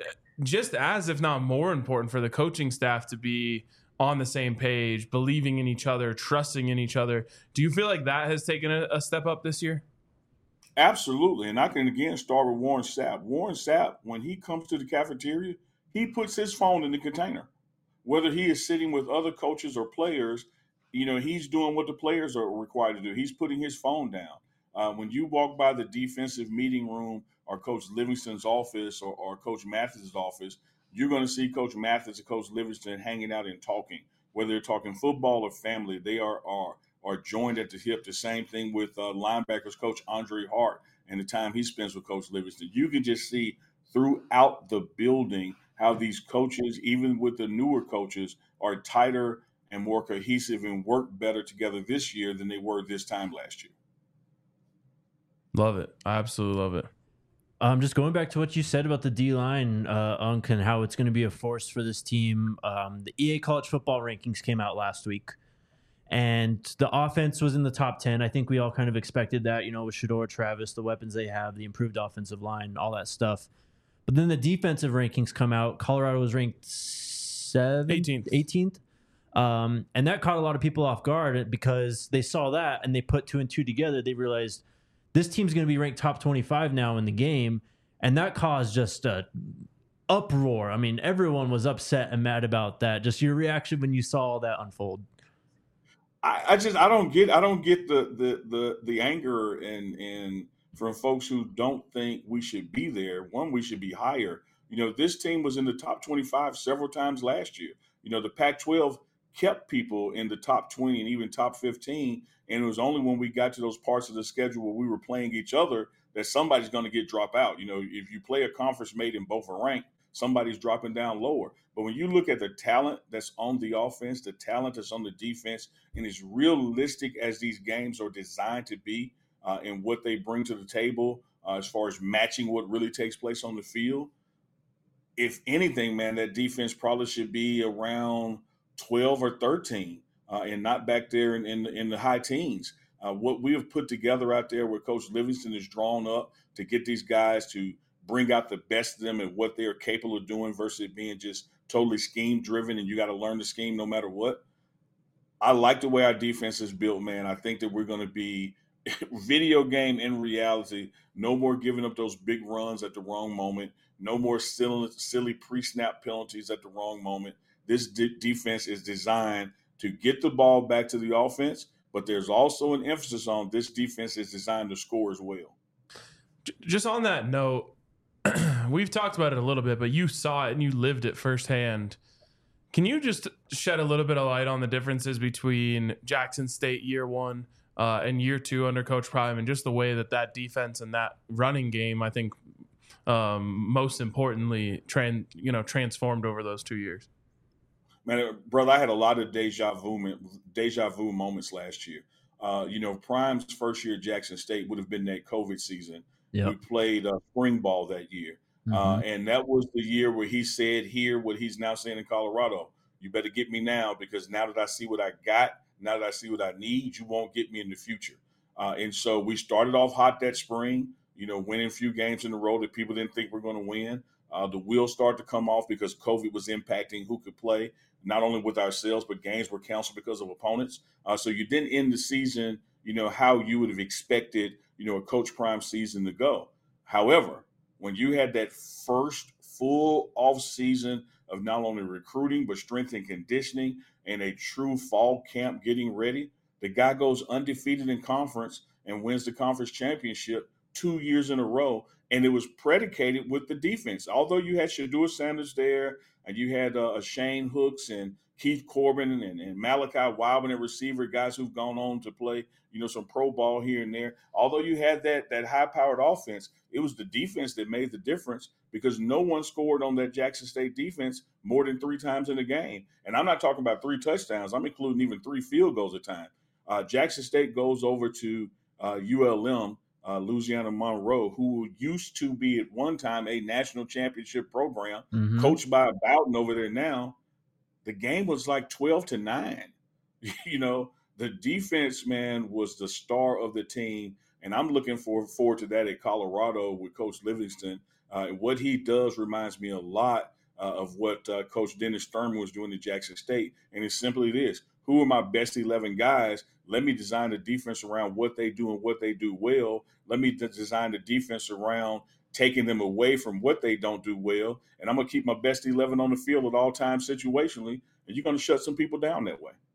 just as, if not more important for the coaching staff to be on the same page, believing in each other, trusting in each other. Do you feel like that has taken a, a step up this year? Absolutely. And I can again start with Warren Sapp. Warren Sapp, when he comes to the cafeteria, he puts his phone in the container. Whether he is sitting with other coaches or players, you know, he's doing what the players are required to do. He's putting his phone down. Uh, when you walk by the defensive meeting room or Coach Livingston's office or, or Coach Mathis' office, you're going to see Coach Mathis and Coach Livingston hanging out and talking. Whether they're talking football or family, they are are are joined at the hip. The same thing with uh, linebackers Coach Andre Hart and the time he spends with Coach Livingston. You can just see throughout the building how these coaches, even with the newer coaches, are tighter and more cohesive and work better together this year than they were this time last year. Love it. I absolutely love it. Um, just going back to what you said about the D-line, uh, Unk, and how it's going to be a force for this team. Um, the E A College Football rankings came out last week, and the offense was in the top ten. I think we all kind of expected that, you know, with Shedeur Travis, the weapons they have, the improved offensive line, all that stuff. But then the defensive rankings come out. Colorado was ranked seventh, eighteenth. eighteenth. Um, and that caught a lot of people off guard because they saw that and they put two and two together. They realized this team's going to be ranked top twenty-five now in the game, and that caused just a uproar. I mean, everyone was upset and mad about that. Just your reaction when you saw all that unfold. I, I just I don't get I don't get the the the the anger and and from folks who don't think we should be there. One, we should be higher. You know, this team was in the top twenty-five several times last year. You know, the Pac twelve kept people in the top twenty and even top fifteen. And it was only when we got to those parts of the schedule where we were playing each other that somebody's going to get dropped out. You know, if you play a conference mate and both are ranked, somebody's dropping down lower. But when you look at the talent that's on the offense, the talent that's on the defense, and as realistic as these games are designed to be uh, and what they bring to the table uh, as far as matching what really takes place on the field, if anything, man, that defense probably should be around twelve or thirteen. Uh, and not back there in, in, in the high teens. Uh, what we have put together out there where Coach Livingston is drawn up to get these guys to bring out the best of them and what they are capable of doing versus being just totally scheme driven and you got to learn the scheme no matter what. I like the way our defense is built, man. I think that we're going to be video game in reality. No more giving up those big runs at the wrong moment. No more silly, silly pre-snap penalties at the wrong moment. This de- defense is designed to get the ball back to the offense, but there's also an emphasis on this defense is designed to score as well. Just on that note, we've talked about it a little bit, but you saw it and you lived it firsthand. Can you just shed a little bit of light on the differences between Jackson State year one uh, and year two under Coach Prime and just the way that that defense and that running game, I think, um, most importantly, tran- you know, transformed over those two years? Man, brother, I had a lot of deja vu, deja vu moments last year. Uh, you know, Prime's first year at Jackson State would have been that COVID season. Yep. We played uh, spring ball that year. Mm-hmm. Uh, and that was the year where he said here what he's now saying in Colorado. You better get me now because now that I see what I got, now that I see what I need, you won't get me in the future. Uh, and so we started off hot that spring, you know, winning a few games in a row that people didn't think were going to win. Uh, the wheels started to come off because COVID was impacting who could play, not only with ourselves, but games were canceled because of opponents. Uh, so you didn't end the season, you know, how you would have expected, you know, a Coach Prime season to go. However, when you had that first full off season of not only recruiting, but strength and conditioning and a true fall camp getting ready, the guy goes undefeated in conference and wins the conference championship two years in a row. And it was predicated with the defense. Although you had Shedeur Sanders there and you had uh, Shane Hooks and Keith Corbin and, and Malachi Wildman, receiver, guys who've gone on to play, you know, some pro ball here and there. Although you had that that high-powered offense, it was the defense that made the difference because no one scored on that Jackson State defense more than three times in a game. And I'm not talking about three touchdowns. I'm including even three field goals a time. Uh, Jackson State goes over to uh, U L M, uh, Louisiana Monroe, who used to be at one time a national championship program, mm-hmm. coached by Bowden over there now. The game was like twelve to nine. You know, the defense, man, was the star of the team. And I'm looking for, forward to that at Colorado with Coach Livingston. Uh, and what he does reminds me a lot uh, of what uh, Coach Dennis Thurman was doing at Jackson State. And it's simply this. Who are my best eleven guys? Let me design the defense around what they do and what they do well. Let me de- design the defense around taking them away from what they don't do well. And I'm going to keep my best eleven on the field at all times situationally. And you're going to shut some people down that way.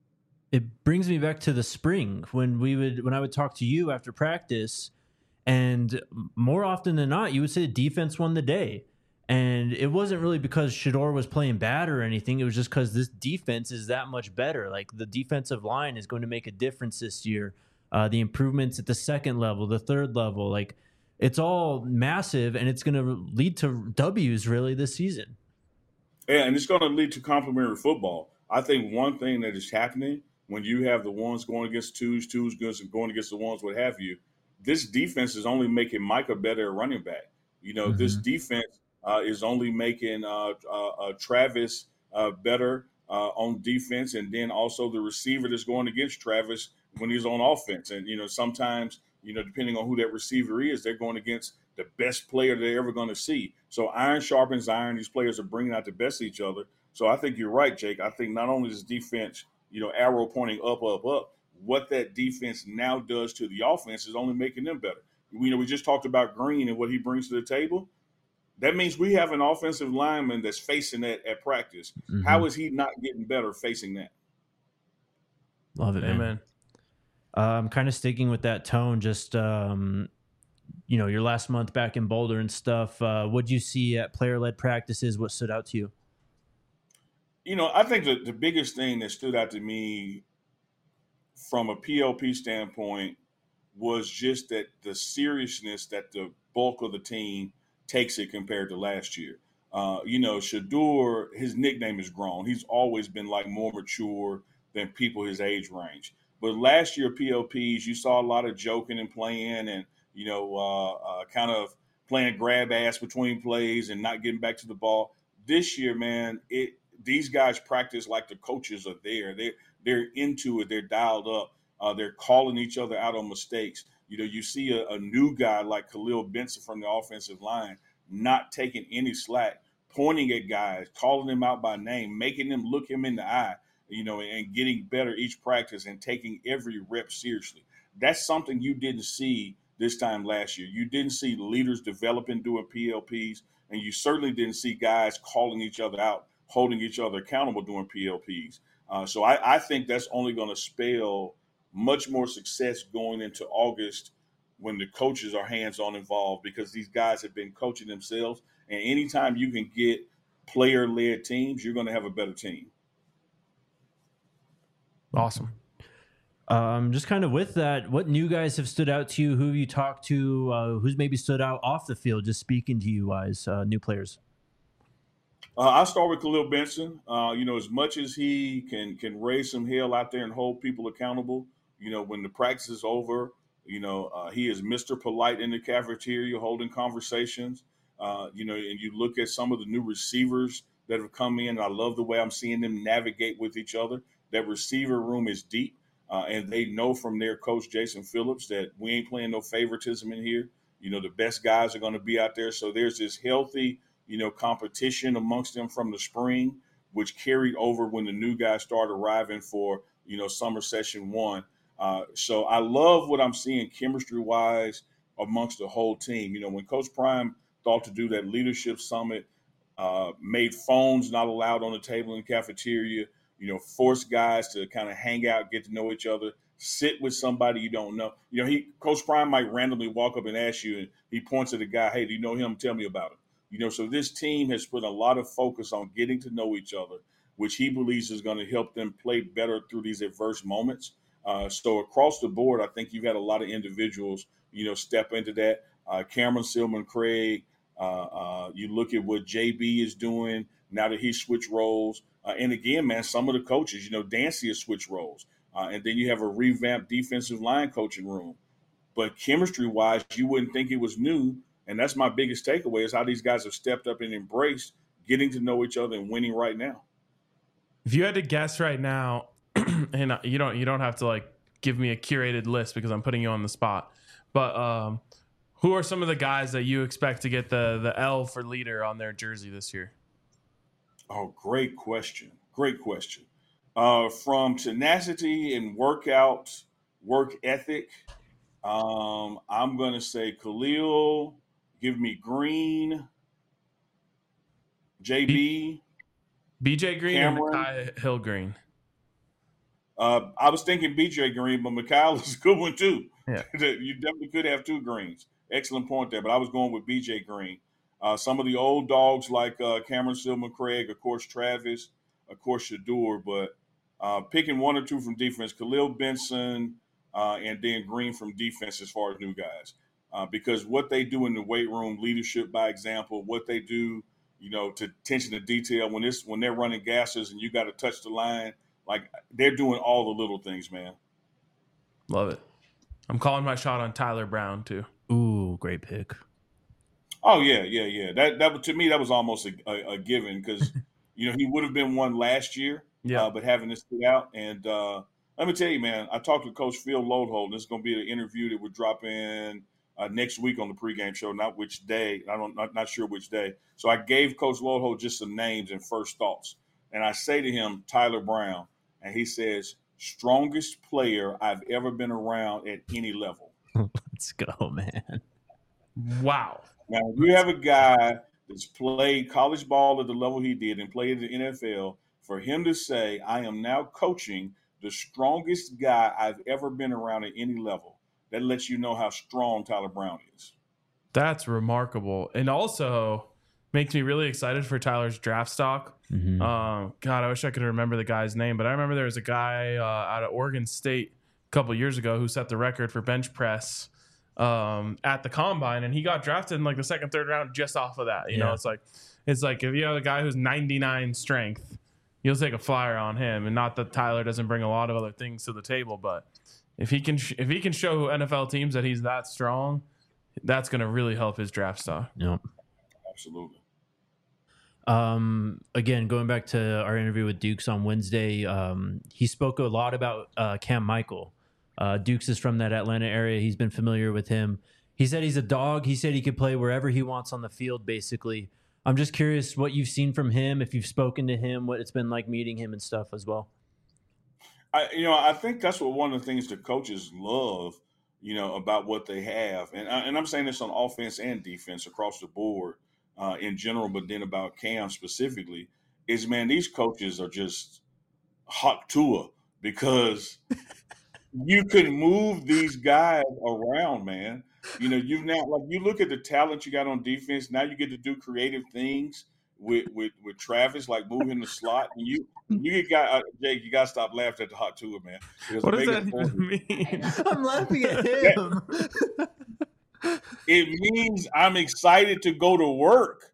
it brings me back to the spring when we would when I would talk to you after practice, and more often than not, you would say the defense won the day. And it wasn't really because Shedeur was playing bad or anything. It was just because this defense is that much better. Like, the defensive line is going to make a difference this year. Uh, the improvements at the second level, the third level, like, it's all massive, and it's going to lead to W's really this season. Yeah, and it's going to lead to complementary football. I think one thing that is happening when you have the ones going against twos, twos going against the ones, what have you, this defense is only making Micah better at running back. You know, mm-hmm. this defense uh, is only making uh, uh, uh, Travis uh, better uh, on defense, and then also the receiver that's going against Travis when he's on offense. And, you know, sometimes, you know, depending on who that receiver is, they're going against the best player they're ever going to see. So iron sharpens iron. These players are bringing out the best of each other. So I think you're right, Jake. I think not only is defense, you know, arrow pointing up, up, up, what that defense now does to the offense is only making them better. You know, we just talked about Green and what he brings to the table. That means we have an offensive lineman that's facing that at practice. Mm-hmm. How is he not getting better facing that? Love it, man. man. Uh, I'm kind of sticking with that tone. Just, um, you know, your last month back in Boulder and stuff. Uh, what'd you see at player-led practices? What stood out to you? You know, I think the, the biggest thing that stood out to me from a P L P standpoint was just that the seriousness that the bulk of the team takes it compared to last year. Uh, you know, Shedeur, his nickname is grown. He's always been like more mature than people his age range. But last year, P L Ps, you saw a lot of joking and playing and, you know, uh, uh, kind of playing grab ass between plays and not getting back to the ball. This year, man, it these guys practice like the coaches are there. They they're into it. They're dialed up. Uh, they're calling each other out on mistakes. You know, you see a, a new guy like Khalil Benson from the offensive line not taking any slack, pointing at guys, calling them out by name, making them look him in the eye, you know, and getting better each practice and taking every rep seriously. That's something you didn't see this time last year. You didn't see leaders developing doing P L Ps, and you certainly didn't see guys calling each other out, holding each other accountable doing P L Ps. Uh, so I, I think that's only going to spell much more success going into August when the coaches are hands-on involved, because these guys have been coaching themselves. And anytime you can get player-led teams, you're going to have a better team. Awesome. Um, just kind of with that, what new guys have stood out to you? Who have you talked to? Uh, who's maybe stood out off the field, just speaking to you guys, uh, new players? Uh, I'll start with Khalil Benson. Uh, you know, as much as he can can raise some hell out there and hold people accountable, you know, when the practice is over, you know, uh, he is Mister Polite in the cafeteria holding conversations. Uh, you know, and you look at some of the new receivers that have come in. And I love the way I'm seeing them navigate with each other. That receiver room is deep. Uh, and they know from their coach, Jason Phillips, that we ain't playing no favoritism in here. You know, the best guys are going to be out there. So there's this healthy, you know, competition amongst them from the spring, which carried over when the new guys started arriving for, you know, summer session one. Uh, so I love what I'm seeing chemistry-wise amongst the whole team. You know, when Coach Prime thought to do that leadership summit, uh, made phones not allowed on the table in the cafeteria, you know, force guys to kind of hang out, get to know each other, sit with somebody you don't know. You know, he Coach Prime might randomly walk up and ask you, and he points at the guy, hey, do you know him? Tell me about him. You know, so this team has put a lot of focus on getting to know each other, which he believes is going to help them play better through these adverse moments. Uh, so across the board, I think you've had a lot of individuals, you know, step into that. Uh, Cameron Silman Craig, uh, uh, you look at what J B is doing now that he switched roles. Uh, and again, man, some of the coaches, you know, Dancy has switched roles. Uh, and then you have a revamped defensive line coaching room. But chemistry-wise, you wouldn't think it was new. And that's my biggest takeaway is how these guys have stepped up and embraced getting to know each other and winning right now. If you had to guess right now, and you don't you don't have to like give me a curated list because I'm putting you on the spot, but um, who are some of the guys that you expect to get the the L for leader on their jersey this year? Oh, great question. Great question. Uh, from tenacity and workout, work ethic, um, I'm going to say Khalil, give me Green, J B. B J Green Cameron. or Mekhi Hill Green? Uh, I was thinking B J Green, but Mikhail is a good one too. Yeah. You definitely could have two Greens. Excellent point there, but I was going with B J Green. Uh, some of the old dogs like uh, Cameron Silman Craig, of course, Travis, of course, Shador, but uh, picking one or two from defense, Khalil Benson, uh, and then Green from defense as far as new guys. Uh, because what they do in the weight room, leadership by example, what they do, you know, to attention to detail when it's when they're running gases and you got to touch the line, like they're doing all the little things, man. Love it. I'm calling my shot on Tyler Brown too. Ooh, great pick. Oh yeah, yeah, yeah. That that to me that was almost a, a, a given because you know he would have been one last year, Yeah. uh, but having this sit out and uh, let me tell you, man, I talked to Coach Phil Lodeholt. This is going to be an interview that would drop in uh, next week on the pregame show. Not which day, I don't, not not sure which day. So I gave Coach Lodeholt just some names and first thoughts, and I say to him Tyler Brown, and he says strongest player I've ever been around at any level. Let's go, man. Wow. Now, if you have a guy that's played college ball at the level he did and played in the N F L, for him to say, I am now coaching the strongest guy I've ever been around at any level, that lets you know how strong Tyler Brown is. That's remarkable. And also makes me really excited for Tyler's draft stock. Mm-hmm. Um, God, I wish I could remember the guy's name, but I remember there was a guy uh, out of Oregon State a couple years ago who set the record for bench press um at the combine, and he got drafted in like the second, third round just off of that. You Yeah. know, it's like it's like if you have a guy who's ninety-nine strength, you'll take a flyer on him. And not that Tyler doesn't bring a lot of other things to the table, but if he can sh- if he can show N F L teams that he's that strong, that's going to really help his draft stock. Yep. Absolutely. Um, again, going back to our interview with Dukes on Wednesday, um, he spoke a lot about uh, Cam Michael. Uh, Dukes is from that Atlanta area. He's been familiar with him. He said he's a dog. He said he could play wherever he wants on the field, basically. I'm just curious what you've seen from him, if you've spoken to him, what it's been like meeting him and stuff as well. I, you know, I think that's what one of the things the coaches love, you know, about what they have. And, I, and I'm saying this on offense and defense across the board uh, in general, but then about Cam specifically, is, man, these coaches are just hot tour because – you can move these guys around, man. You know, you've now like you look at the talent you got on defense. Now you get to do creative things with with, with Travis, like moving the slot. And you you get guy uh, Jake, you gotta stop laughing at the hot tour, man. Because What does make that it forward- even mean? I'm laughing at him. It means I'm excited to go to work.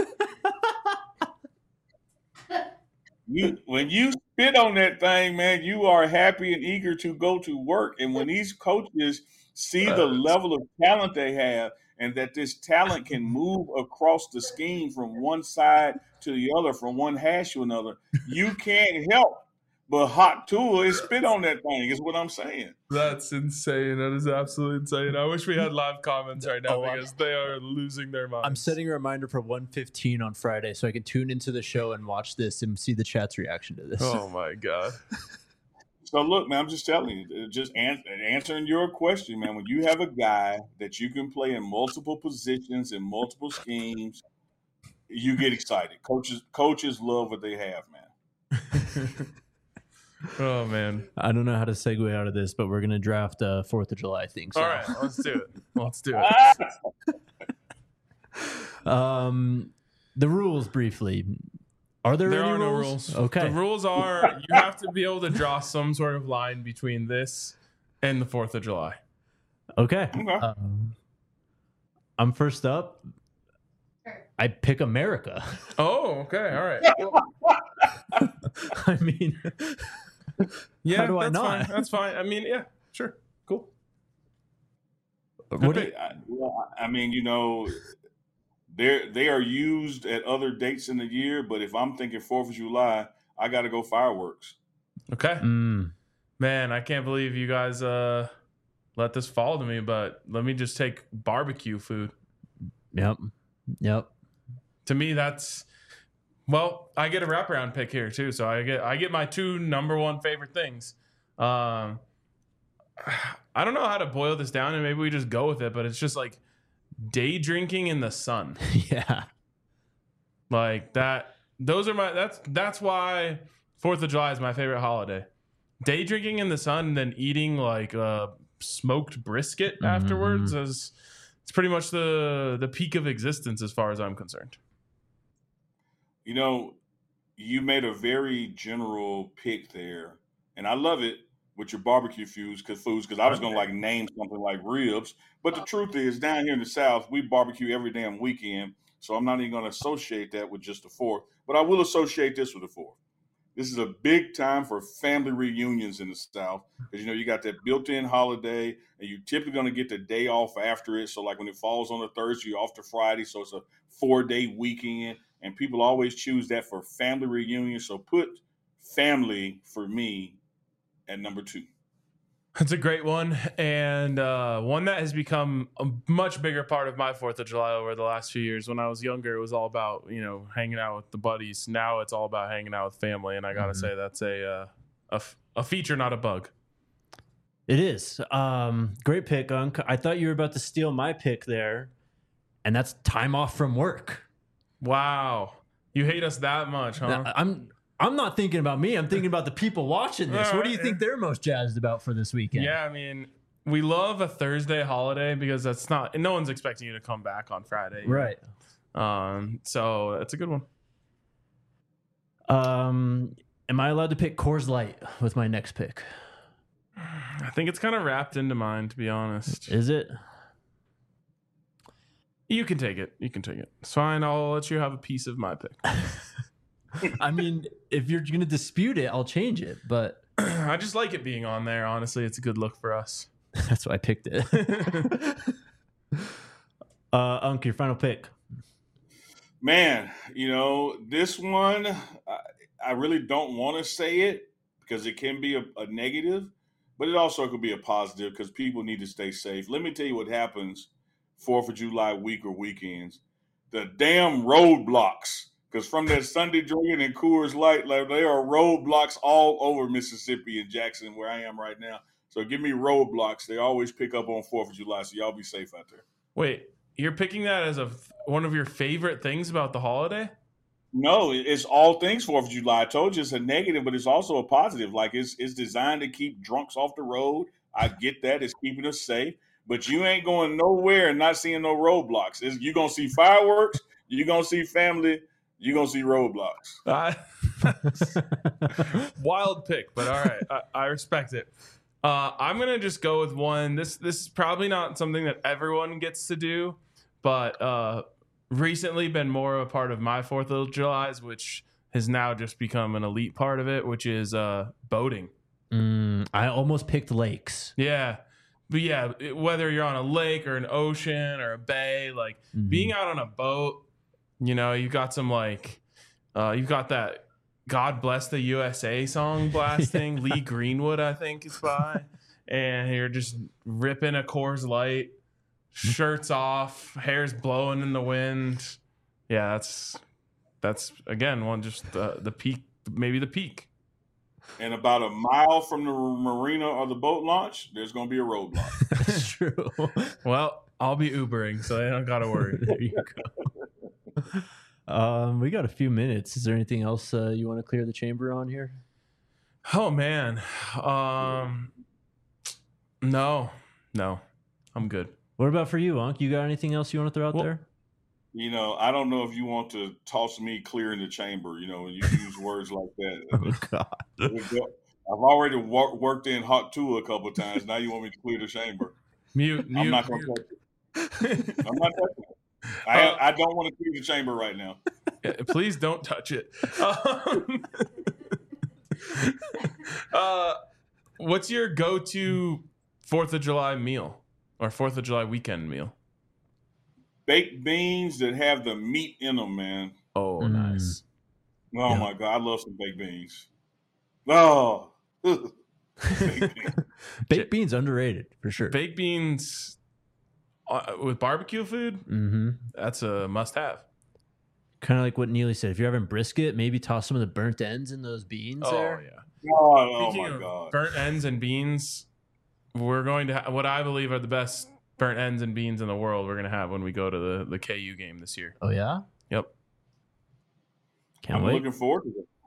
You, when you spit on that thing, man, you are happy and eager to go to work. And when these coaches see the level of talent they have and that this talent can move across the scheme from one side to the other, from one hash to another, you can't help but hot tool and spit on that thing is what I'm saying. That's insane. That is absolutely insane. I wish we had live comments right now Oh, I'm- because they are losing their minds. I'm setting a reminder for one fifteen on Friday so I can tune into the show and watch this and see the chat's reaction to this. Oh my God. So look, man, I'm just telling you, just an- answering your question, man. When you have a guy that you can play in multiple positions and multiple schemes, you get excited. Coaches, coaches love what they have, man. Oh man. I don't know how to segue out of this, but we're going to draft a fourth of July thing. So. All right, let's do it. Let's do it. Ah! Um, the rules briefly. Are there, There any are no rules? rules. Okay. The rules are you have to be able to draw some sort of line between this and the fourth of July. Okay. Okay. Um, I'm first up. I pick America. Oh, okay. All right. I mean, Yeah, How do I that's not? fine. That's fine. I mean, yeah, sure. Cool. what do I, you, I, well, I mean, you know, they they are used at other dates in the year, but if I'm thinking Fourth of July, I got to go fireworks. Okay. mm, Man, I can't believe you guys uh let this fall to me, but let me just take barbecue food. yep. Yep. To me, that's well, I get a wraparound pick here too. So I get I get my two number one favorite things. Um I don't know how to boil this down, and maybe we just go with it, but it's just like day drinking in the sun. Yeah. Like that those are my that's that's why Fourth of July is my favorite holiday. day drinking in the sun and then eating like a smoked brisket Mm-hmm. afterwards is it's pretty much the the peak of existence as far as I'm concerned. You know, you made a very general pick there, and I love it with your barbecue foods because foods because I was gonna like name something like ribs, but the truth is down here in the South we barbecue every damn weekend, so I'm not even gonna associate that with just the fourth, but I will associate this with the fourth. This is a big time for family reunions in the South because you know you got that built-in holiday, and you're typically going to get the day off after it. So, like when it falls on a Thursday, you're off to Friday, so it's a four-day weekend, and people always choose that for family reunion. So, put family for me at number two. It's a great one, and uh, one that has become a much bigger part of my fourth of July over the last few years. When I was younger, it was all about, you know, hanging out with the buddies. Now it's all about hanging out with family, and I got to Mhm. say that's a, uh, a, f- a feature, not a bug. It is. Um, great pick, Unc. I thought you were about to steal my pick there, and that's time off from work. Wow. You hate us that much, huh? Now, I'm I'm not thinking about me. I'm thinking about the people watching this. What do you think they're most jazzed about for this weekend? Yeah, I mean, we love a Thursday holiday because that's not, no one's expecting you to come back on Friday. you know? Right. Um, so that's a good one. Um, am I allowed to pick Coors Light with my next pick? I think it's kind of wrapped into mine, to be honest. Is it? You can take it. You can take it. It's fine. I'll let you have a piece of my pick. I mean, if you're going to dispute it, I'll change it. But I just like it being on there. Honestly, it's a good look for us. that's why I picked it. uh, Unc, your final pick. Man, you know, this one, I, I really don't want to say it because it can be a, a negative, but it also could be a positive because people need to stay safe. Let me tell you what happens fourth of July week or weekends. The damn roadblocks. Because from that Sunday drinking and Coors Light, like there are roadblocks all over Mississippi and Jackson, where I am right now. So give me roadblocks. They always pick up on fourth of July, so y'all be safe out there. Wait, you're picking that as a one of your favorite things about the holiday? No, it's all things fourth of July. I told you it's a negative, but it's also a positive. Like it's it's designed to keep drunks off the road. I get that. It's keeping us safe. But you ain't going nowhere and not seeing no roadblocks. It's, you're going to see fireworks. You're going to see family. You're going to see roadblocks. Uh, wild pick, but all right. I, I respect it. Uh, I'm going to just go with one. This this is probably not something that everyone gets to do, but uh, recently been more of a part of my fourth of July's, which has now just become an elite part of it, which is uh, boating. Mm, I almost picked lakes. Yeah. But yeah, it- whether you're on a lake or an ocean or a bay, like Mhm. being out on a boat, you know, you've got some like, uh, you've got that God Bless the U S A song blasting. Lee Greenwood, I think, is by. And you're just ripping a Coors Light, shirts off, hair's blowing in the wind. Yeah, that's, that's again, one just the, the peak, maybe the peak. And about a mile from the marina or the boat launch, there's going to be a roadblock. That's true. Well, I'll be Ubering, so I don't got to worry. There you go. Um, we got a few minutes. Is there anything else uh, you want to clear the chamber on here? Oh man, um, no, no, I'm good. What about for you, Unc? You got anything else you want to throw out Well- there? You know, I don't know if you want to toss me clear in the chamber, you know, when you use words like that. Oh God. I've already wor- worked in Hot two a couple of times. Now you want me to clear the chamber. Mute, mute. I'm not going to touch it. I'm not touching it. I, I don't want to clear the chamber right now. Yeah, please don't touch it. Um, uh, what's your go-to Fourth of July meal or Fourth of July weekend meal? Baked beans that have the meat in them, man. Oh, Mm. nice. Oh, Yeah. my God. I love some baked beans. Oh. Baked beans. Baked beans underrated for sure. Baked beans uh, with barbecue food. Mm-hmm. That's a must-have. Kind of like what Neely said. If you're having brisket, maybe toss some of the burnt ends in those beans Oh there. yeah. Oh, oh Speaking my of God. burnt ends and beans, we're going to ha- what I believe are the best burnt ends and beans in the world. We're going to have when we go to the the K U game this year. Oh yeah. Yep. Can't I'm wait. looking forward to it.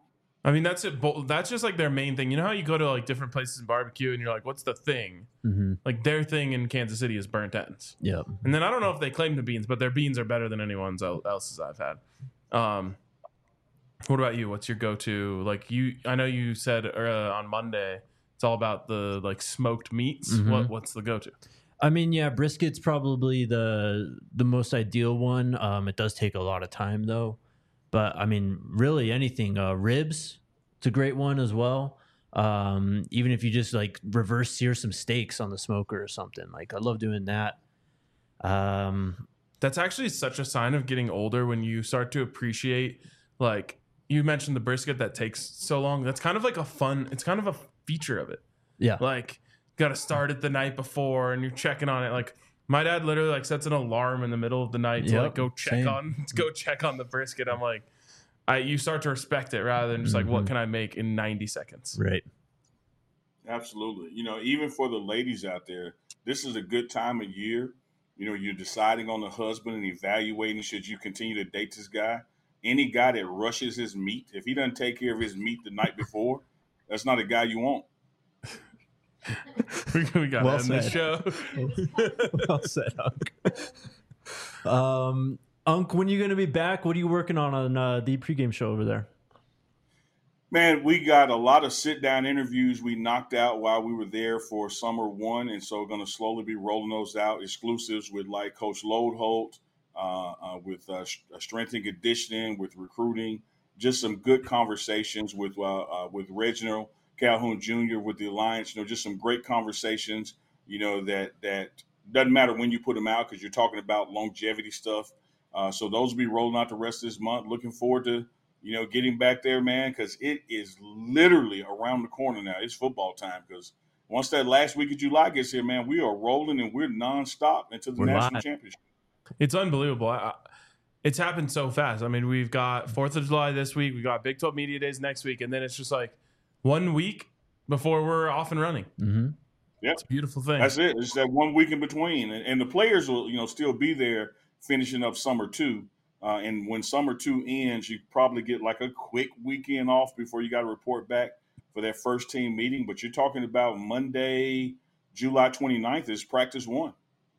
I mean, that's it. bo- That's just like their main thing. You know how you go to like different places in barbecue and you're like, what's the thing? Mm-hmm. Like their thing in Kansas City is burnt ends. Yep. And then I don't know if they claim the beans, but their beans are better than anyone's el- else's I've had. Um, what about you? What's your go-to? Like you, I know you said uh, on Monday it's all about the like smoked meats. Mhm. What what's the go-to? I mean, yeah, brisket's probably the the most ideal one. Um, it does take a lot of time though, but I mean, really anything. Uh, ribs, it's a great one as well. Um, even if you just like reverse sear some steaks on the smoker or something, like I love doing that. Um, That's actually such a sign of getting older when you start to appreciate, like you mentioned the brisket that takes so long. That's kind of like a fun, it's kind of a feature of it. yeah, Like got to start it the night before and you're checking on it. Like my dad literally like sets an alarm in the middle of the night to Yep, like go check same. on, to go check on the brisket. I'm like, I, you start to respect it rather than just like, what Mhm. can I make in ninety seconds? right. Absolutely. You know, even for the ladies out there, this is a good time of year. You know, you're deciding on the husband and evaluating should you continue to date this guy. Any guy that rushes his meat, if he doesn't take care of his meat the night before, that's not a guy you want. we, we got Well to end this said. show. Well said, Unk. Um, Unk, when are you going to be back? What are you working on on uh, the pregame show over there? Man, we got a lot of sit-down interviews we knocked out while we were there for summer one, and so we're going to slowly be rolling those out, exclusives with like Coach Lodeholt, uh, uh, with uh, strength and conditioning, with recruiting, just some good conversations with uh, uh, with Reginald Calhoun Junior with the Alliance. You know, just some great conversations. You know that that doesn't matter when you put them out because you're talking about longevity stuff. Uh, so those will be rolling out the rest of this month. Looking forward to. You know, getting back there, man, because it is literally around the corner now. It's football time because once that last week of July gets here, man, we are rolling and we're nonstop into the We're national live. championship. It's unbelievable. I, it's happened so fast. I mean, we've got fourth of July this week. We got Big twelve Media Days next week. And then it's just like one week before we're off and running. Mm-hmm. It's a beautiful thing. That's it. It's that one week in between. And, and the players will, you know, still be there finishing up summer two. Uh, and when summer two ends, you probably get like a quick weekend off before you got to report back for that first team meeting. But you're talking about Monday, July twenty-ninth is practice one.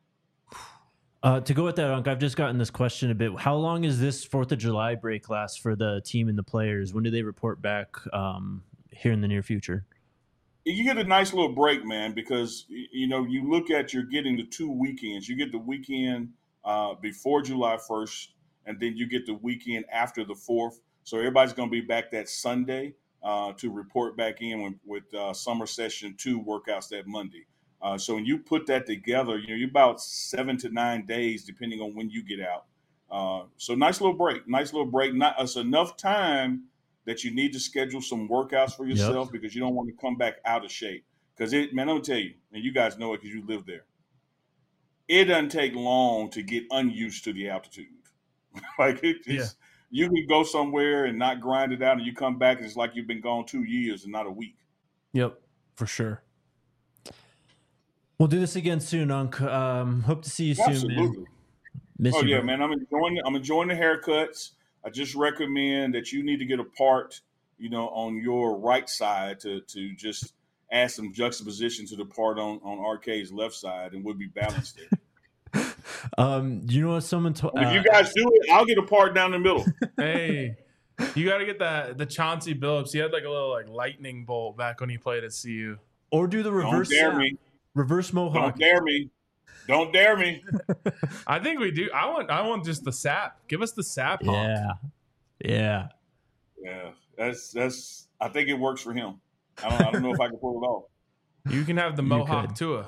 Uh, to go with that, Unk, I've just gotten this question a bit. How long is this fourth of July break last for the team and the players? When do they report back um, here in the near future? You get a nice little break, man, because, you know, you look at you're getting the two weekends. You get the weekend uh, before July first, and then you get the weekend after the fourth. So everybody's going to be back that Sunday uh, to report back in with, with uh, summer session two workouts that Monday. Uh, so when you put that together, you know, you're about seven to nine days, depending on when you get out. Uh, so nice little break, nice little break. Not it's enough time that you need to schedule some workouts for yourself yep. because you don't want to come back out of shape. Because it, man, I'm gonna tell you, and you guys know it because you live there. It doesn't take long to get unused to the altitude. like it, it's, yeah. you can go somewhere and not grind it out, and you come back and it's like you've been gone two years and not a week. Yep, for sure. We'll do this again soon, Unk. Um, hope to see you Absolutely. soon, man. Miss oh you, yeah, bro. man. I'm enjoying. I'm enjoying the haircuts. I just recommend that you need to get a part, you know, on your right side to to just add some juxtaposition to the part on on R K's left side, and we'll be balanced there. um, you know what? Someone told. If uh, you guys do it, I'll get a part down the middle. Hey, you got to get that the Chauncey Billups. He had like a little like lightning bolt back when he played at C U. Or do the reverse. Don't dare sap. me. Reverse mohawk. Don't dare me. Don't dare me. I think we do. I want. I want just the sap. Give us the sap. Honk. Yeah. Yeah. Yeah. That's that's. I think it works for him. I don't. I don't know if I can pull it off. You can have the You mohawk could. Tua.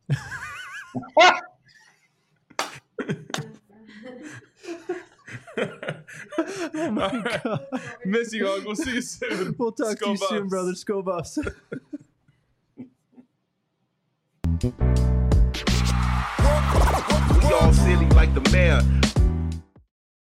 Oh my All right. God. Miss you, Uncle. We'll see you soon. We'll talk Skull to you soon, Buffs. brother. Skull Buffs. We all silly like the mayor.